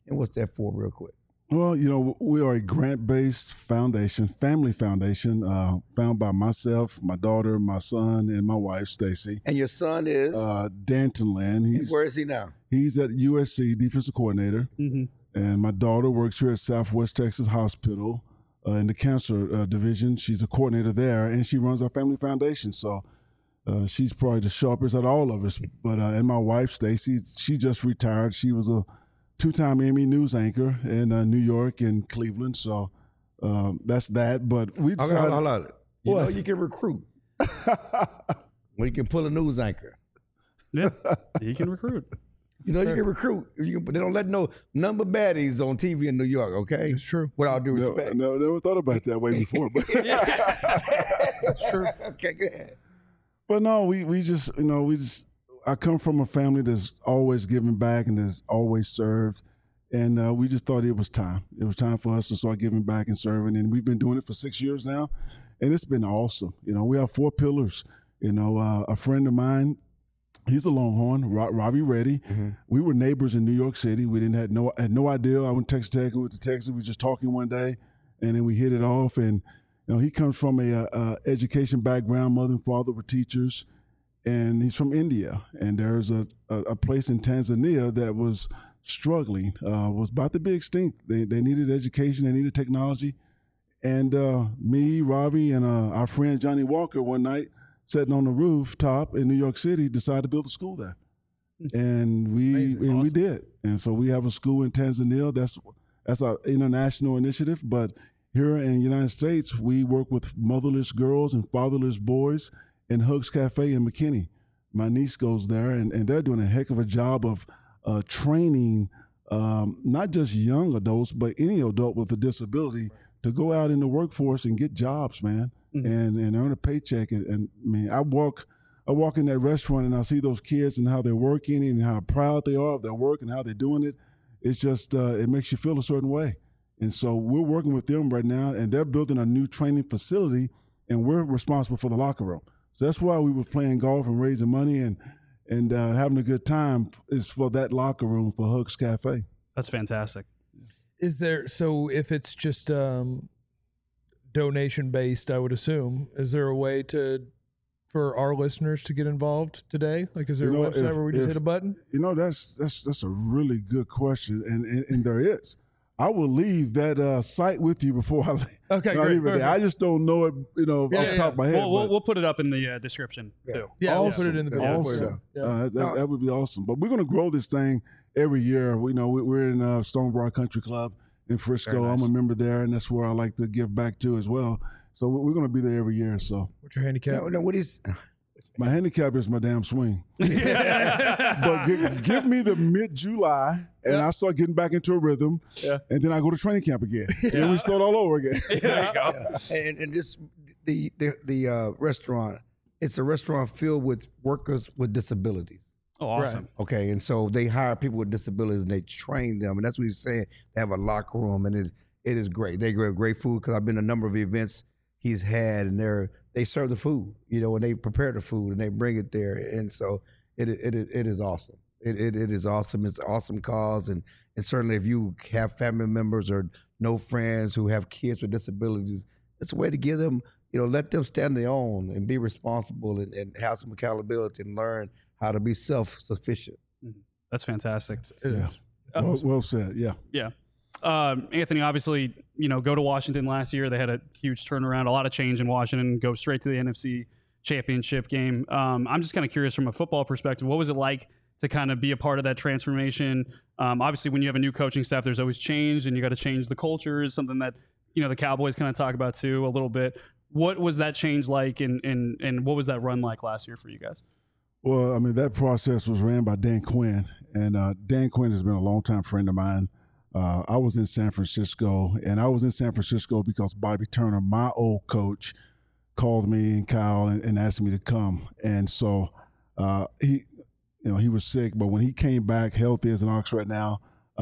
And what's that for, real quick? Well, we are a grant-based foundation, family foundation, founded by myself, my daughter, my son, and my wife, Stacy. And your son is? Danton Land. Where is he now? He's at USC, defensive coordinator. Mm-hmm. And my daughter works here at Southwest Texas Hospital in the cancer division. She's a coordinator there, and she runs our family foundation. So she's probably the sharpest out of all of us. But and my wife, Stacy, she just retired. She was a 2-time Emmy news anchor in New York and Cleveland. So that's that. But we decided. Hold on. You know you can recruit. Well, you can pull a news anchor. Yeah, he can recruit. You can recruit. But they don't let no number baddies on TV in New York, okay? It's true. With all due respect. No, never thought about it that way before. But That's true. Okay, go ahead. But no, we just, I come from a family that's always given back and that's always served. And we just thought it was time. It was time for us to start giving back and serving. And we've been doing it for 6 years now. And it's been awesome. We have 4 pillars. A friend of mine, he's a Longhorn, Robbie Reddy. Mm-hmm. We were neighbors in New York City. We had no idea. I went to Texas Tech. We went to Texas. We were just talking one day, and then we hit it off. And he comes from a education background. Mother and father were teachers, and he's from India. And there's a place in Tanzania that was struggling, was about to be extinct. They needed education. They needed technology. And me, Robbie, and our friend Johnny Walker one night, sitting on the rooftop in New York City, decided to build a school there. And we did. And so we have a school in Tanzania. That's our international initiative. But here in the United States, we work with motherless girls and fatherless boys in Hugs Cafe in McKinney. My niece goes there, and they're doing a heck of a job of training not just young adults, but any adult with a disability to go out in the workforce and get jobs, man. Mm-hmm. and earn a paycheck. And I mean, I walk in that restaurant and I see those kids and how they're working and how proud they are of their work and how they're doing it. It's just, it makes you feel a certain way. And so we're working with them right now, and they're building a new training facility, and we're responsible for the locker room. So that's why we were playing golf and raising money and having a good time is for that locker room for Hugs Cafe. That's fantastic. So if it's just donation based, I would assume, is there a way for our listeners to get involved today? Like, is there a website where we just hit a button? That's a really good question, and there is. I will leave that site with you before I leave. Okay, great. I just don't know it, off the top of my head. We'll put it up in the description too. Yeah, we'll put it in the video. Awesome. That would be awesome. But we're going to grow this thing every year. We're in Stonebrook Country Club in Frisco. Nice. I'm a member there, and that's where I like to give back to as well. So we're going to be there every year. So what's your handicap? No, what is? My handicap is my damn swing. But give me the mid-July, and I start getting back into a rhythm, and then I go to training camp again. And then we start all over again. There you go. And just the restaurant, it's a restaurant filled with workers with disabilities. Oh, awesome. Right. Okay, and so they hire people with disabilities, and they train them, and that's what he's saying. They have a locker room, and it is great. They have great food, because I've been to a number of events he's had, and they serve the food, and they prepare the food and they bring it there, and so it is awesome. It is awesome. It's an awesome cause, and certainly if you have family members or no friends who have kids with disabilities, it's a way to give them, let them stand on their own and be responsible and have some accountability and learn how to be self-sufficient. That's fantastic. Yeah. Well said. Yeah. Yeah. Anthony, obviously, go to Washington last year. They had a huge turnaround, a lot of change in Washington, go straight to the NFC Championship game. I'm just kind of curious from a football perspective, what was it like to kind of be a part of that transformation? Obviously, when you have a new coaching staff, there's always change, and you got to change the culture is something that, the Cowboys kind of talk about too a little bit. What was that change like, and what was that run like last year for you guys? Well, I mean, that process was ran by Dan Quinn, and Dan Quinn has been a longtime friend of mine. I was in San Francisco, and I was in San Francisco because Bobby Turner, my old coach, called me and Kyle and asked me to come. And so he was sick, but when he came back healthy as an ox right now,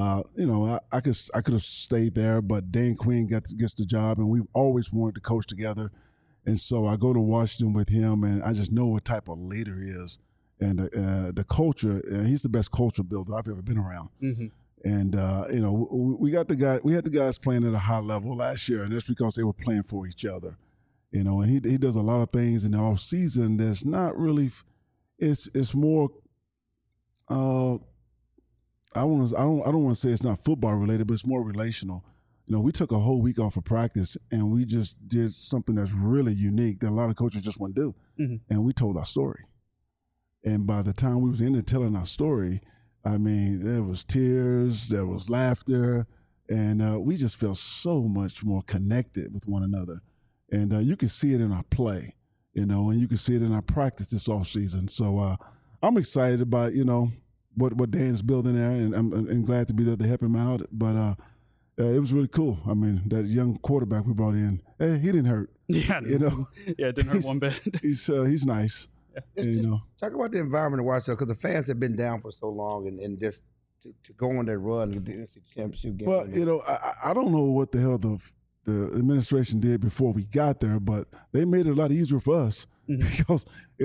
I could have stayed there, but Dan Quinn gets the job, and we've always wanted to coach together. And so I go to Washington with him, and I just know what type of leader he is. And the culture, he's the best culture builder I've ever been around. Mm-hmm. And we had the guys playing at a high level last year, and that's because they were playing for each other. And he does a lot of things in the off season that's not really. It's more. I don't want to say it's not football related, but it's more relational. We took a whole week off of practice, and we just did something that's really unique that a lot of coaches just want to do, and we told our story. And by the time we was in there telling our story, I mean, there was tears, there was laughter, and we just felt so much more connected with one another. And you can see it in our play, and you can see it in our practice this offseason. So I'm excited about, what Dan's building there, and I'm glad to be there to help him out. But it was really cool. I mean, that young quarterback we brought in, he didn't hurt. Yeah, it didn't hurt one bit. He's nice. Yeah. Talk about the environment to watch, because the fans have been down for so long, and just to go on that run and the NCAA championship game. Well, I don't know what the hell the administration did before we got there, but they made it a lot easier for us because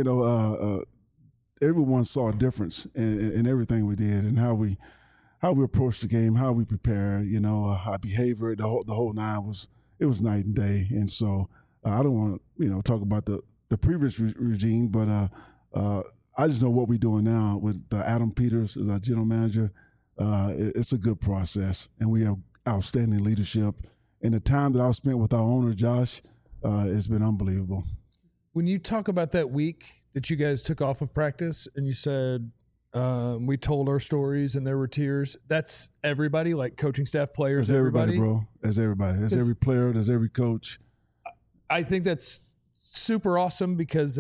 everyone saw a difference in everything we did and how we approached the game, how we prepared, our behavior, the whole nine was night and day. And so I don't want to talk about the previous regime, but I just know what we're doing now with Adam Peters as our general manager. It's a good process, and we have outstanding leadership. And the time that I've spent with our owner, Josh, it's been unbelievable. When you talk about that week that you guys took off of practice and you said we told our stories and there were tears, that's everybody, like coaching staff, players, that's everybody, bro. That's everybody. That's every player. That's every coach. I think that's super awesome because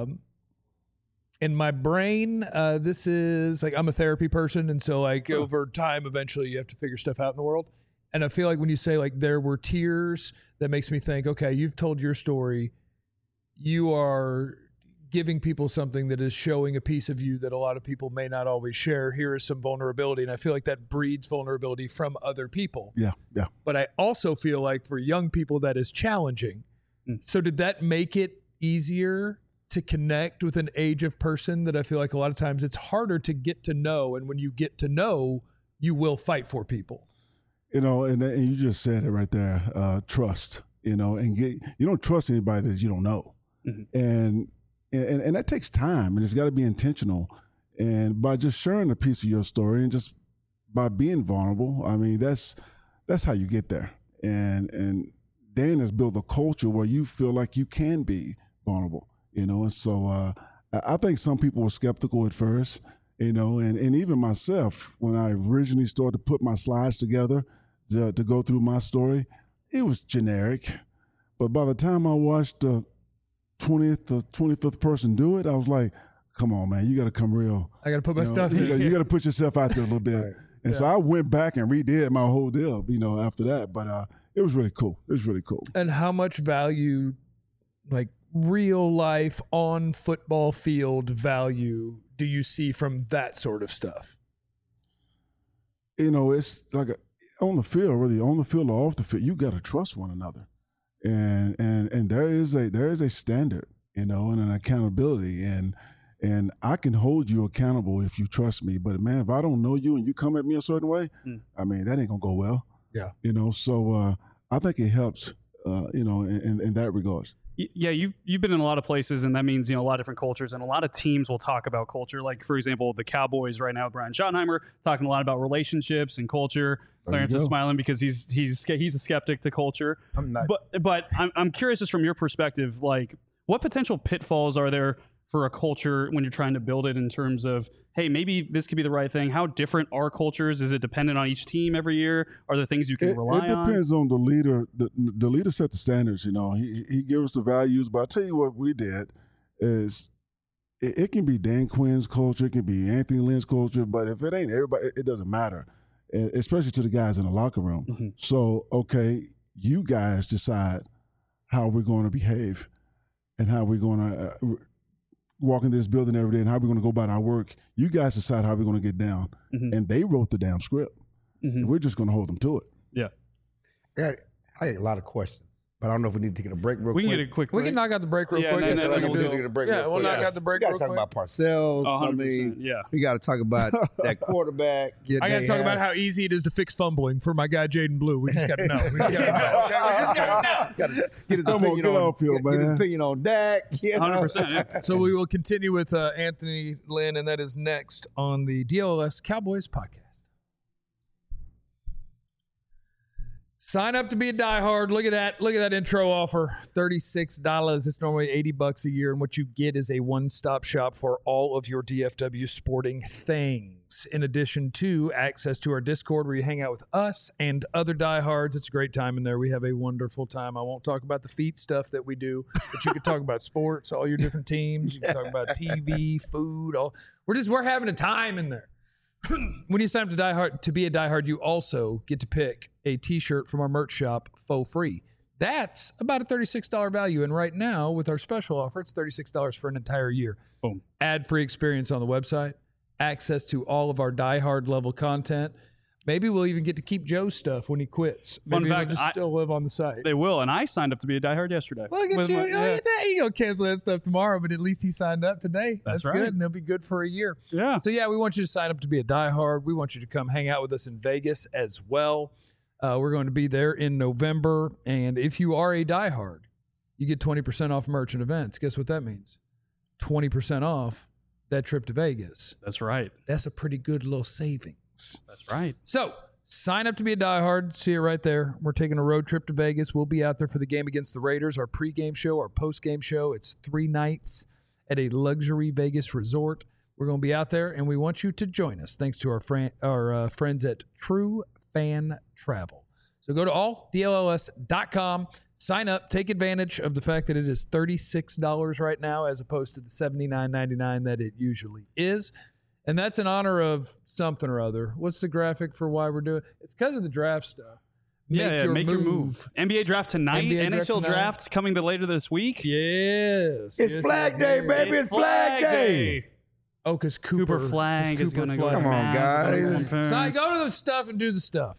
in my brain, this is like, I'm a therapy person. And so like over time, eventually you have to figure stuff out in the world. And I feel like when you say like there were tears, that makes me think, okay, you've told your story. You are giving people something that is showing a piece of you that a lot of people may not always share. Here is some vulnerability. And I feel like that breeds vulnerability from other people. Yeah. But I also feel like for young people, that is challenging. So did that make it easier to connect with an age of person that I feel like a lot of times it's harder to get to know? And when you get to know, you will fight for people. And you just said it right there, trust, you don't trust anybody that you don't know. And that takes time, and it's got to be intentional. And by just sharing a piece of your story and just by being vulnerable, I mean, that's how you get there. And Dan has built a culture where you feel like you can be vulnerable, and so I think some people were skeptical at first, and even myself, when I originally started to put my slides together to go through my story, it was generic. But by the time I watched the 20th or 25th person do it, I was like, come on, man, you got to come real. I got to put my stuff in. You got to put yourself out there a little bit. Right. And so I went back and redid my whole deal, after that. But it was really cool. And how much value, like real life on football field value, do you see from that sort of stuff? It's like on the field, whether you're on the field or off the field, you got to trust one another. And there is a standard, and an accountability, and I can hold you accountable if you trust me. But man, if I don't know you and you come at me a certain way, I mean, that ain't gonna go well. Yeah. So I think it helps, in that regard. Yeah, you've been in a lot of places, and that means a lot of different cultures, and a lot of teams will talk about culture. Like for example, the Cowboys right now, Brian Schottenheimer talking a lot about relationships and culture. Clarence is smiling because he's a skeptic to culture. I'm not. But I'm curious, just from your perspective, like what potential pitfalls are there for a culture when you're trying to build it in terms of, hey, maybe this could be the right thing? How different are cultures? Is it dependent on each team every year? Are there things you can rely on? It depends on the leader. The leader set the standards, He gives us the values, but I'll tell you what we did is it can be Dan Quinn's culture, it can be Anthony Lynn's culture, but if it ain't everybody, it doesn't matter, especially to the guys in the locker room. So, okay, you guys decide how we're going to behave and how we're going to walk into this building every day and how we're going to go about our work. You guys decide how we're going to get down. And they wrote the damn script. And we're just going to hold them to it. Yeah. I had a lot of questions, But I don't know if we need to take a break real We quick. can get a quick We break. can knock out the break real Yeah, quick. and then I think we'll we do- need to get a break Yeah, real we'll quick. knock out the break We got real to talk quick. about Parcells. 100%, yeah. We got to talk about that quarterback. I got to talk about how easy it is to fix fumbling for my guy Jaden Blue. We just got to know. We just got to know. Okay? We just got to know. Get his Come on, opinion get on off here, get his man. opinion on Dak. You know? 100%. Yeah. So we will continue with Anthony Lynn, and that is next on the DLS Cowboys podcast. Sign up to be a diehard. Look at that. Look at that intro offer. $36. It's normally $80 a year. And what you get is a one-stop shop for all of your DFW sporting things. In addition to access to our Discord where you hang out with us and other diehards. It's a great time in there. We have a wonderful time. I won't talk about the feet stuff that we do, but you can talk about sports, all your different teams. You can talk about TV, food. We're having a time in there. When you sign up to be a diehard, you also get to pick a t-shirt from our merch shop for free. That's about a $36 value. And right now, with our special offer, it's $36 for an entire year. Boom. Ad-free experience on the website, access to all of our diehard level content. Maybe we'll even get to keep Joe's stuff when he quits. Fun Maybe fact, it'll just still live on the site. They will, and I signed up to be a diehard yesterday. Look at With you. my- Look yeah. at that. You gonna cancel that stuff tomorrow, but at least he signed up today. That's right. good, and he'll be good for a year. Yeah. So yeah, we want you to sign up to be a diehard. We want you to come hang out with us in Vegas as well. We're going to be there in November, and if you are a diehard, you get 20% off merch and events. Guess what that means? 20% off that trip to Vegas. That's right. That's a pretty good little savings. That's right. So sign up to be a diehard. See it right there. We're taking a road trip to Vegas. We'll be out there for the game against the Raiders, our pregame show, our postgame show. It's 3 nights at a luxury Vegas resort. We're going to be out there, and we want you to join us. Thanks to our friends at True Fan Travel. So go to alldlls.com, sign up, take advantage of the fact that it is $36 right now as opposed to the $79.99 that it usually is. And that's in honor of something or other. What's the graphic for why we're doing it? It's because of the draft stuff. Make your move. NBA draft tonight. NBA draft NHL tonight. draft coming later this week. Yes. It's Flag Day, baby. It's Flag Day. Oh, because Cooper Flag is going to go. Come on, guys. So go to the stuff and do the stuff.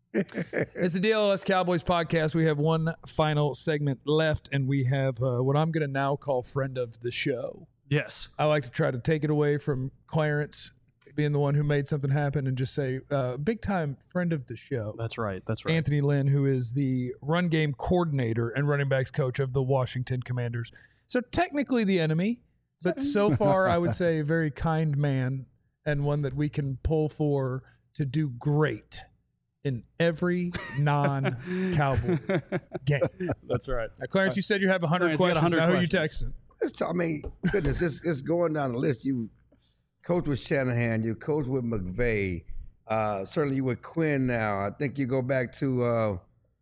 It's the DLS Cowboys podcast. We have one final segment left, and we have what I'm going to now call friend of the show. Yes. I like to try to take it away from Clarence being the one who made something happen and just say, big time friend of the show. That's right. That's right. Anthony Lynn, who is the run game coordinator and running backs coach of the Washington Commanders. So technically the enemy, but so far I would say a very kind man and one that we can pull for to do great in every non-Cowboy game. That's right. Now, Clarence, you said you have 100 Clarence, you got questions. 100 Now, who are you questions. texting? I mean, goodness, just going down the list. You coach with Shanahan, you coach with McVay. Certainly you with Quinn now. I think you go back to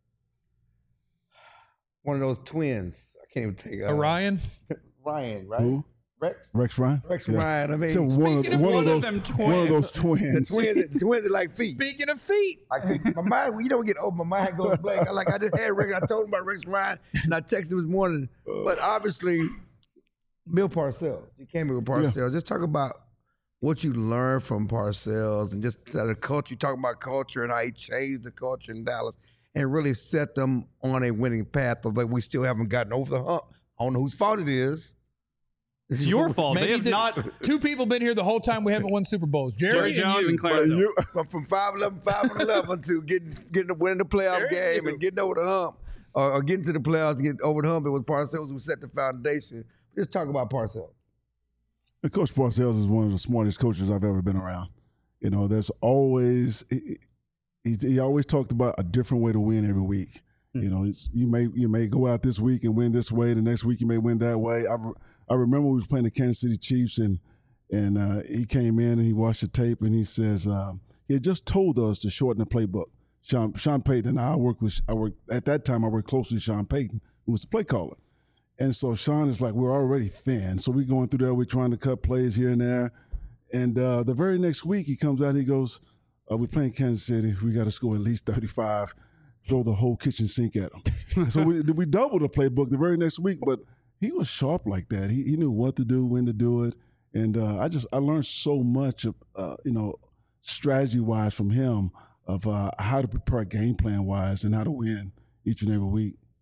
one of those twins. I can't even think. Orion? Ryan, right? Who? Rex Ryan? Ryan. I mean, So one of those twins. the twins are like feet. Speaking of feet. My mind, you don't get old. My mind goes blank. I just had Rex. I told him about Rex Ryan, and I texted him this morning. But obviously, Bill Parcells. You came here with Parcells. Yeah. Just talk about what you learned from Parcells, and just the culture. You talk about culture and how he changed the culture in Dallas, and really set them on a winning path. Although we still haven't gotten over the hump. I don't know whose fault it is. It's your fault. They have not. Two people been here the whole time we haven't won Super Bowls. Jerry Jones you. and Clarence. Hill. From 5-11 to getting winning the playoff game and getting over the hump, or getting to the playoffs and getting over the hump. It was Parcells who set the foundation. Just talk about Parcells. And Coach Parcells is one of the smartest coaches I've ever been around. You know, there's always he always talked about a different way to win every week. You know, you may go out this week and win this way. The next week you may win that way. I remember we was playing the Kansas City Chiefs and he came in and he watched the tape and he says he had just told us to shorten the playbook. Sean Payton and I worked at that time. I worked closely with Sean Payton, who was the play caller. And so Sean is like, we're already thin. So we're going through there. We're trying to cut plays here and there. And the very next week he comes out and he goes, we're playing Kansas City. We got to score at least 35. Throw the whole kitchen sink at him. So we doubled the playbook the very next week, but he was sharp like that. He knew what to do, when to do it. And I learned so much of, strategy-wise from him of how to prepare game plan-wise and how to win each and every week.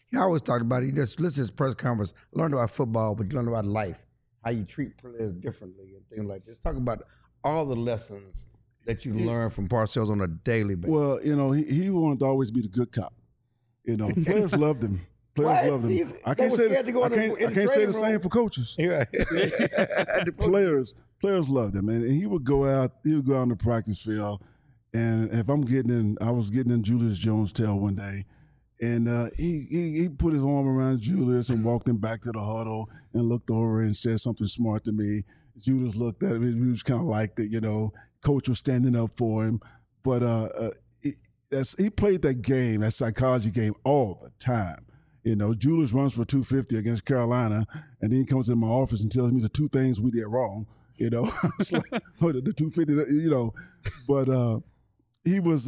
He always talked about it. He just listen to his press conference, learned about football, but you learn about life, how you treat players differently and things like this. Talk about all the lessons that you learn from Parcells on a daily basis. Well, he wanted to always be the good cop. Players loved him. Players loved him. I can't say the same for coaches. Right. Players loved him, and he would go out. He would go out on the practice field, and if I was getting in Julius Jones' tail one day, and he put his arm around Julius and walked him back to the huddle and looked over and said something smart to me. Julius looked at him. He just kind of liked it, Coach was standing up for him, but he played that game, that psychology game, all the time. Julius runs for 250 against Carolina, and then he comes in my office and tells me the two things we did wrong. It's like, the 250. But he was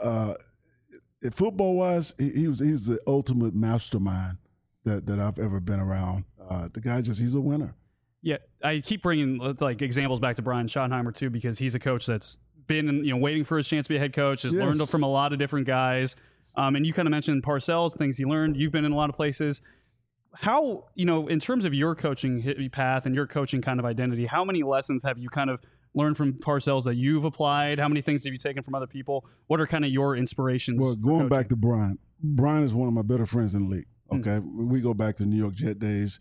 football wise, he was the ultimate mastermind that I've ever been around. The guy he's a winner. Yeah, I keep bringing examples back to Brian Schottenheimer too, because he's a coach that's been waiting for his chance to be a head coach, has learned from a lot of different guys. And you kind of mentioned Parcells, things he learned. You've been in a lot of places. How, in terms of your coaching path and your coaching kind of identity, how many lessons have you kind of learned from Parcells that you've applied? How many things have you taken from other people? What are kind of your inspirations? Well, going back to Brian is one of my better friends in the league. Okay, we go back to New York Jet days.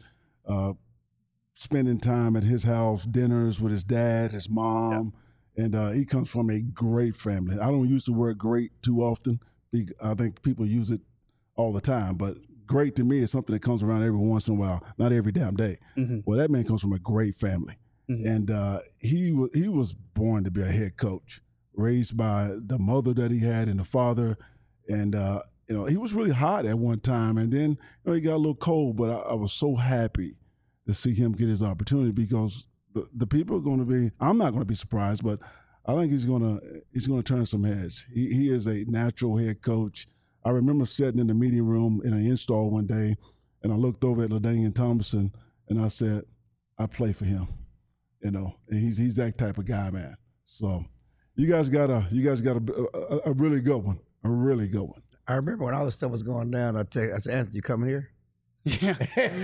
Spending time at his house, dinners with his dad, his mom, and he comes from a great family. I don't use the word great too often. I think people use it all the time, but great to me is something that comes around every once in a while, not every damn day. Mm-hmm. Well, that man comes from a great family, and he was born to be a head coach, raised by the mother that he had and the father, and he was really hot at one time, and then he got a little cold, but I was so happy to see him get his opportunity, because the people are going to be, I'm not going to be surprised, but I think he's going to turn some heads. He is a natural head coach. I remember sitting in the meeting room in an install one day, and I looked over at LaDainian Tomlinson, and I said, I play for him, and he's that type of guy, man. So you guys got a really good one, a really good one. I remember when all this stuff was going down, I said, Anthony, you coming here? Yeah.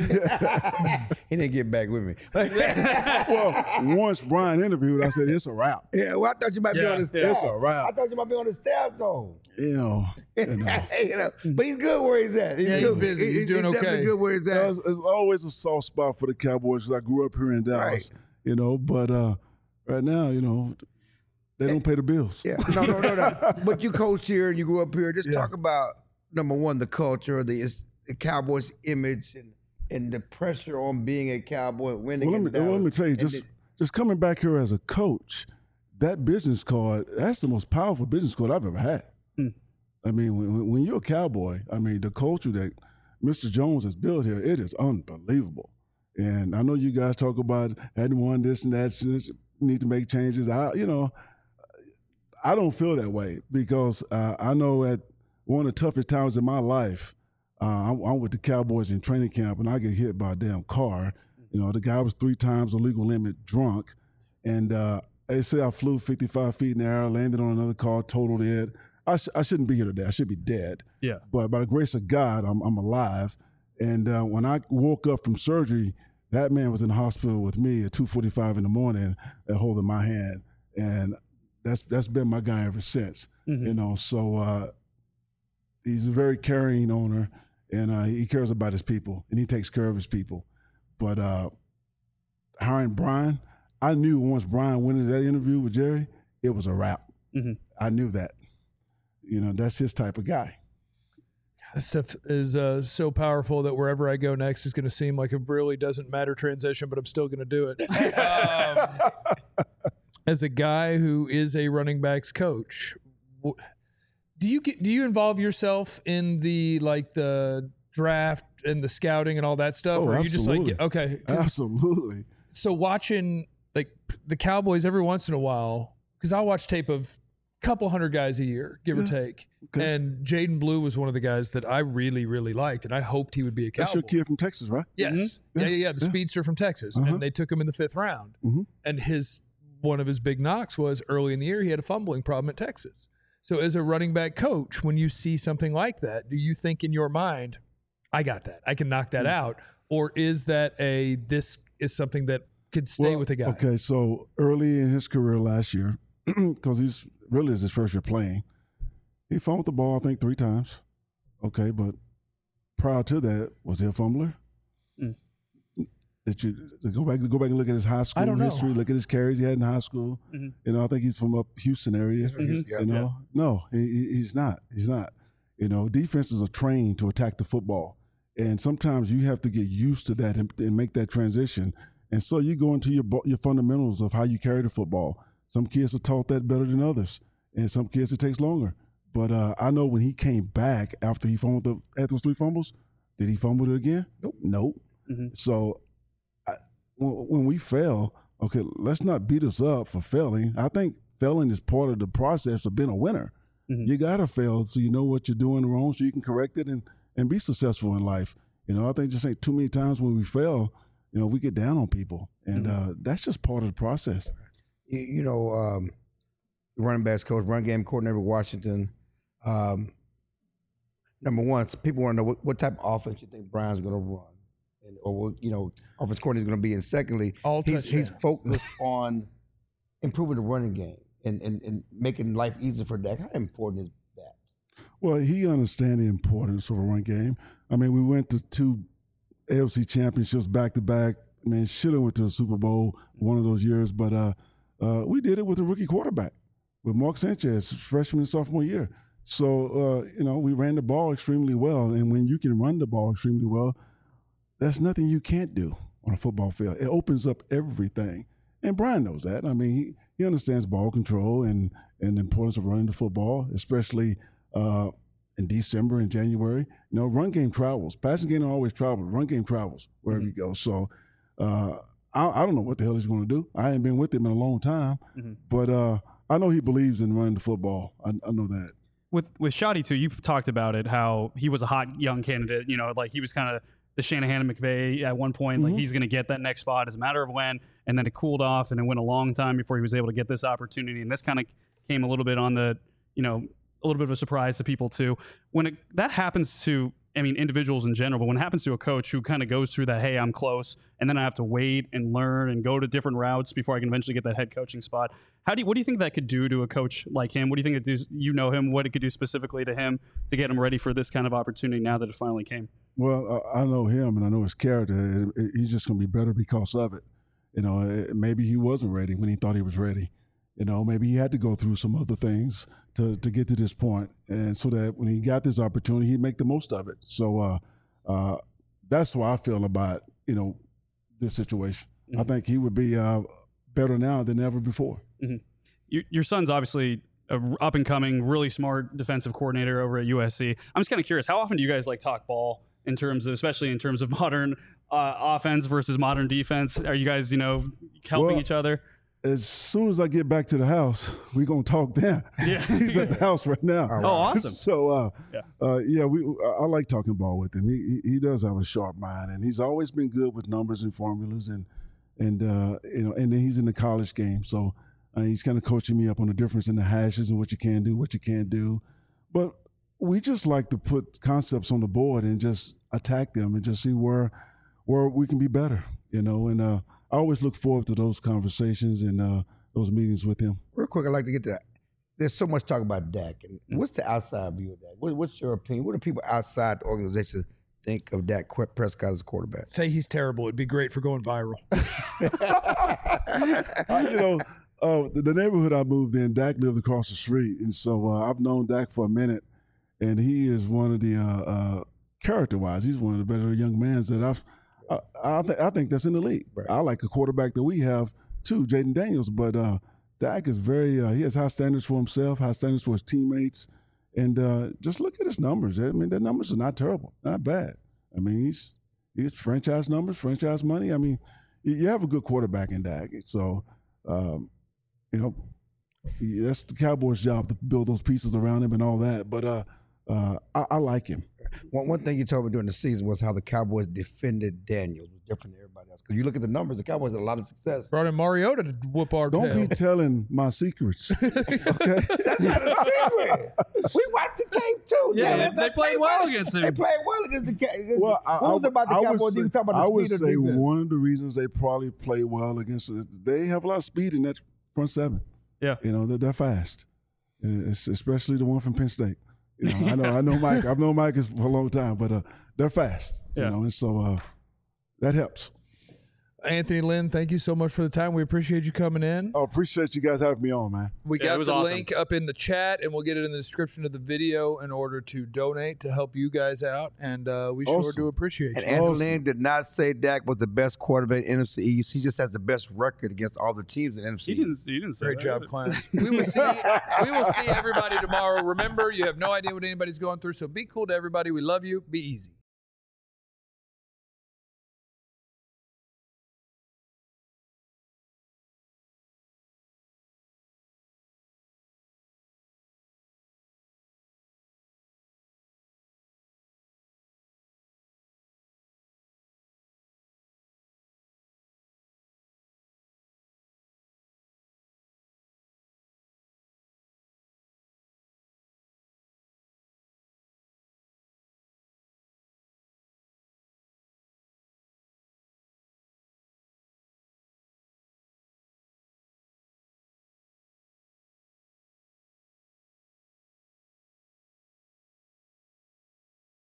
He didn't get back with me. Well, once Brian interviewed, I said, it's a wrap. Yeah, well, I thought you might be on the staff. It's a wrap. I thought you might be on the staff, though. But he's good where he's at. He's busy. He's doing okay. Definitely good where he's at. There's always a soft spot for the Cowboys, because I grew up here in Dallas, but right now, they don't pay the bills. Yeah, no. But you coached here and you grew up here. Just talk about, number one, the culture, the Cowboys image and the pressure on being a Cowboy, winning. Well, let me tell you, just coming back here as a coach, that business card, that's the most powerful business card I've ever had. I mean, when you're a Cowboy, I mean, the culture that Mr. Jones has built here, it is unbelievable. And I know you guys talk about hadn't won this and that, need to make changes. I don't feel that way, because I know at one of the toughest times in my life, I'm with the Cowboys in training camp, and I get hit by a damn car. The guy was 3 times the legal limit drunk, and they say I flew 55 feet in the air, landed on another car, totaled it. I shouldn't be here today. I should be dead. Yeah. But by the grace of God, I'm alive. And when I woke up from surgery, that man was in the hospital with me at 2:45 in the morning, holding my hand, and that's been my guy ever since. So he's a very caring owner. And he cares about his people, and he takes care of his people. But hiring Brian, I knew once Brian went into that interview with Jerry, it was a wrap. I knew that. That's his type of guy. That stuff is so powerful that wherever I go next is going to seem like a really doesn't matter transition, but I'm still going to do it. As a guy who is a running backs coach, do you involve yourself in the draft and the scouting and all that stuff? Or are you absolutely. just okay? Absolutely. So watching the Cowboys every once in a while, because I watch tape of a couple hundred guys a year, give or take. Okay. And Jaden Blue was one of the guys that I really, really liked, and I hoped he would be a Cowboy. That's your kid from Texas, right? Yes. Mm-hmm. The speedster from Texas. And they took him in the 5th round. Mm-hmm. And one of his big knocks was early in the year he had a fumbling problem at Texas. So as a running back coach, when you see something like that, do you think in your mind, I got that. I can knock that out. Or is that this is something that could stay with a guy? Okay, so early in his career last year, because he's really is his first year playing, he fumbled the ball, I think, 3 times. Okay, but prior to that, was he a fumbler? Did you go back and look at his high school history, look at his carries he had in high school? You know, I think he's from up Houston area. You know, no, he's not. He's not. You know, defenses are trained to attack the football, and sometimes you have to get used to that and make that transition. And so you go into your fundamentals of how you carry the football. Some kids are taught that better than others, and some kids it takes longer. But I know when he came back after he fumbled at those 3 fumbles, did he fumble it again? Nope. So when we fail, okay, let's not beat us up for failing. I think failing is part of the process of being a winner. You got to fail so you know what you're doing wrong so you can correct it and be successful in life. You know, I think just ain't too many times when we fail, you know, we get down on people. And that's just part of the process. You know, running backs coach, run game coordinator with Washington. Number one, people want to know what type of offense you think Brian's going to run. Or you know, offense coordinator is going to be. And secondly, he's focused on improving the running game and making life easier for Dak. How important is that? Well, he understands the importance of a run game. I mean, we went to 2 AFC championships back to back. I mean, should have went to the Super Bowl one of those years, but we did it with a rookie quarterback, with Mark Sanchez, freshman and sophomore year. So, you know, we ran the ball extremely well, and when you can run the ball extremely well, there's nothing you can't do on a football field. It opens up everything. And Brian knows that. I mean, he understands ball control and the importance of running the football, especially in December and January. You know, run game travels. Passing game don't always travel. Run game travels wherever you go. So I don't know what the hell he's going to do. I ain't been with him in a long time. But I know he believes in running the football. I know that. With Shotty, too, you talked about it, how he was a hot young candidate. You know, like he was kind of the Shanahan and McVay at one point, like he's going to get that next spot. It's a matter of when, and then it cooled off, and it went a long time before he was able to get this opportunity. And this kind of came a little bit on the, you know, a little bit of a surprise to people too. When that happens to, I mean, individuals in general, but when it happens to a coach who kind of goes through that, hey, I'm close, and then I have to wait and learn and go to different routes before I can eventually get that head coaching spot. What do you think that could do to a coach like him? What do you think it do? You know him, what it could do specifically to him to get him ready for this kind of opportunity now that it finally came? Well, I know him and I know his character. He's just going to be better because of it. You know, maybe he wasn't ready when he thought he was ready. You know, maybe he had to go through some other things to get to this point, and so that when he got this opportunity, he'd make the most of it. So that's how I feel about, you know, this situation. I think he would be better now than ever before. Your son's obviously an up-and-coming, really smart defensive coordinator over at USC. I'm just kind of curious, how often do you guys like talk ball in terms of, especially in terms of modern offense versus modern defense? Are you guys, you know, helping each other? As soon as I get back to the house, we're going to talk then. Yeah. He's at the house right now. Oh, awesome. So, I like talking ball with him. He does have a sharp mind, and he's always been good with numbers and formulas, and you know, and then he's in the college game. So he's kind of coaching me up on the difference in the hashes and what you can do, what you can't do. But we just like to put concepts on the board and just attack them and just see where we can be better, you know, and I always look forward to those conversations and those meetings with him. Real quick, I'd like to get to that. There's so much talk about Dak. And what's the outside view of Dak? What's your opinion? What do people outside the organization think of Dak Prescott as a quarterback? Say he's terrible. It'd be great for going viral. You know, the neighborhood I moved in, Dak lived across the street. And so I've known Dak for a minute. And he is one of the, character-wise, he's one of the better young men that I think that's in the league. Right. I like a quarterback that we have too, Jaden Daniels, but Dak is very he has high standards for himself, high standards for his teammates, and just look at his numbers. I mean, their numbers are not terrible, not bad. I mean, he's franchise numbers, franchise money. I mean, you have a good quarterback in Dak, so you know, that's the Cowboys' job to build those pieces around him and all that. But I like him. One thing you told me during the season was how the Cowboys defended Daniels. It was different than everybody else. Because you look at the numbers, the Cowboys had a lot of success. Brought in Mariota to whoop our Don't tail. be telling my secrets. Okay? That's not a secret. We watched the tape too. Yeah, That's they not played tape. well against him. They played well against the Cowboys. Well, What was it about the Cowboys? You were talking about I the would speed of say defense. one of the reasons they probably play well against us, they have a lot of speed in that front seven. Yeah. You know, they're fast. It's especially the one from Penn State. You know, I know Mike. I've known Mike for a long time, but they're fast. Yeah. You know, and so that helps. Anthony Lynn, thank you so much for the time. We appreciate you coming in. I appreciate you guys having me on, man. We Yeah, it got was the awesome. link up in the chat, and we'll get it in the description of the video in order to donate to help you guys out. And we sure Awesome. do appreciate And you. Anthony Awesome. Lynn did not say Dak was the best quarterback in NFC East. He just has the best record against all the teams in NFC He East. didn't say Great that job, either. Clarence. We will see everybody tomorrow. Remember, you have no idea what anybody's going through, so be cool to everybody. We love you. Be easy.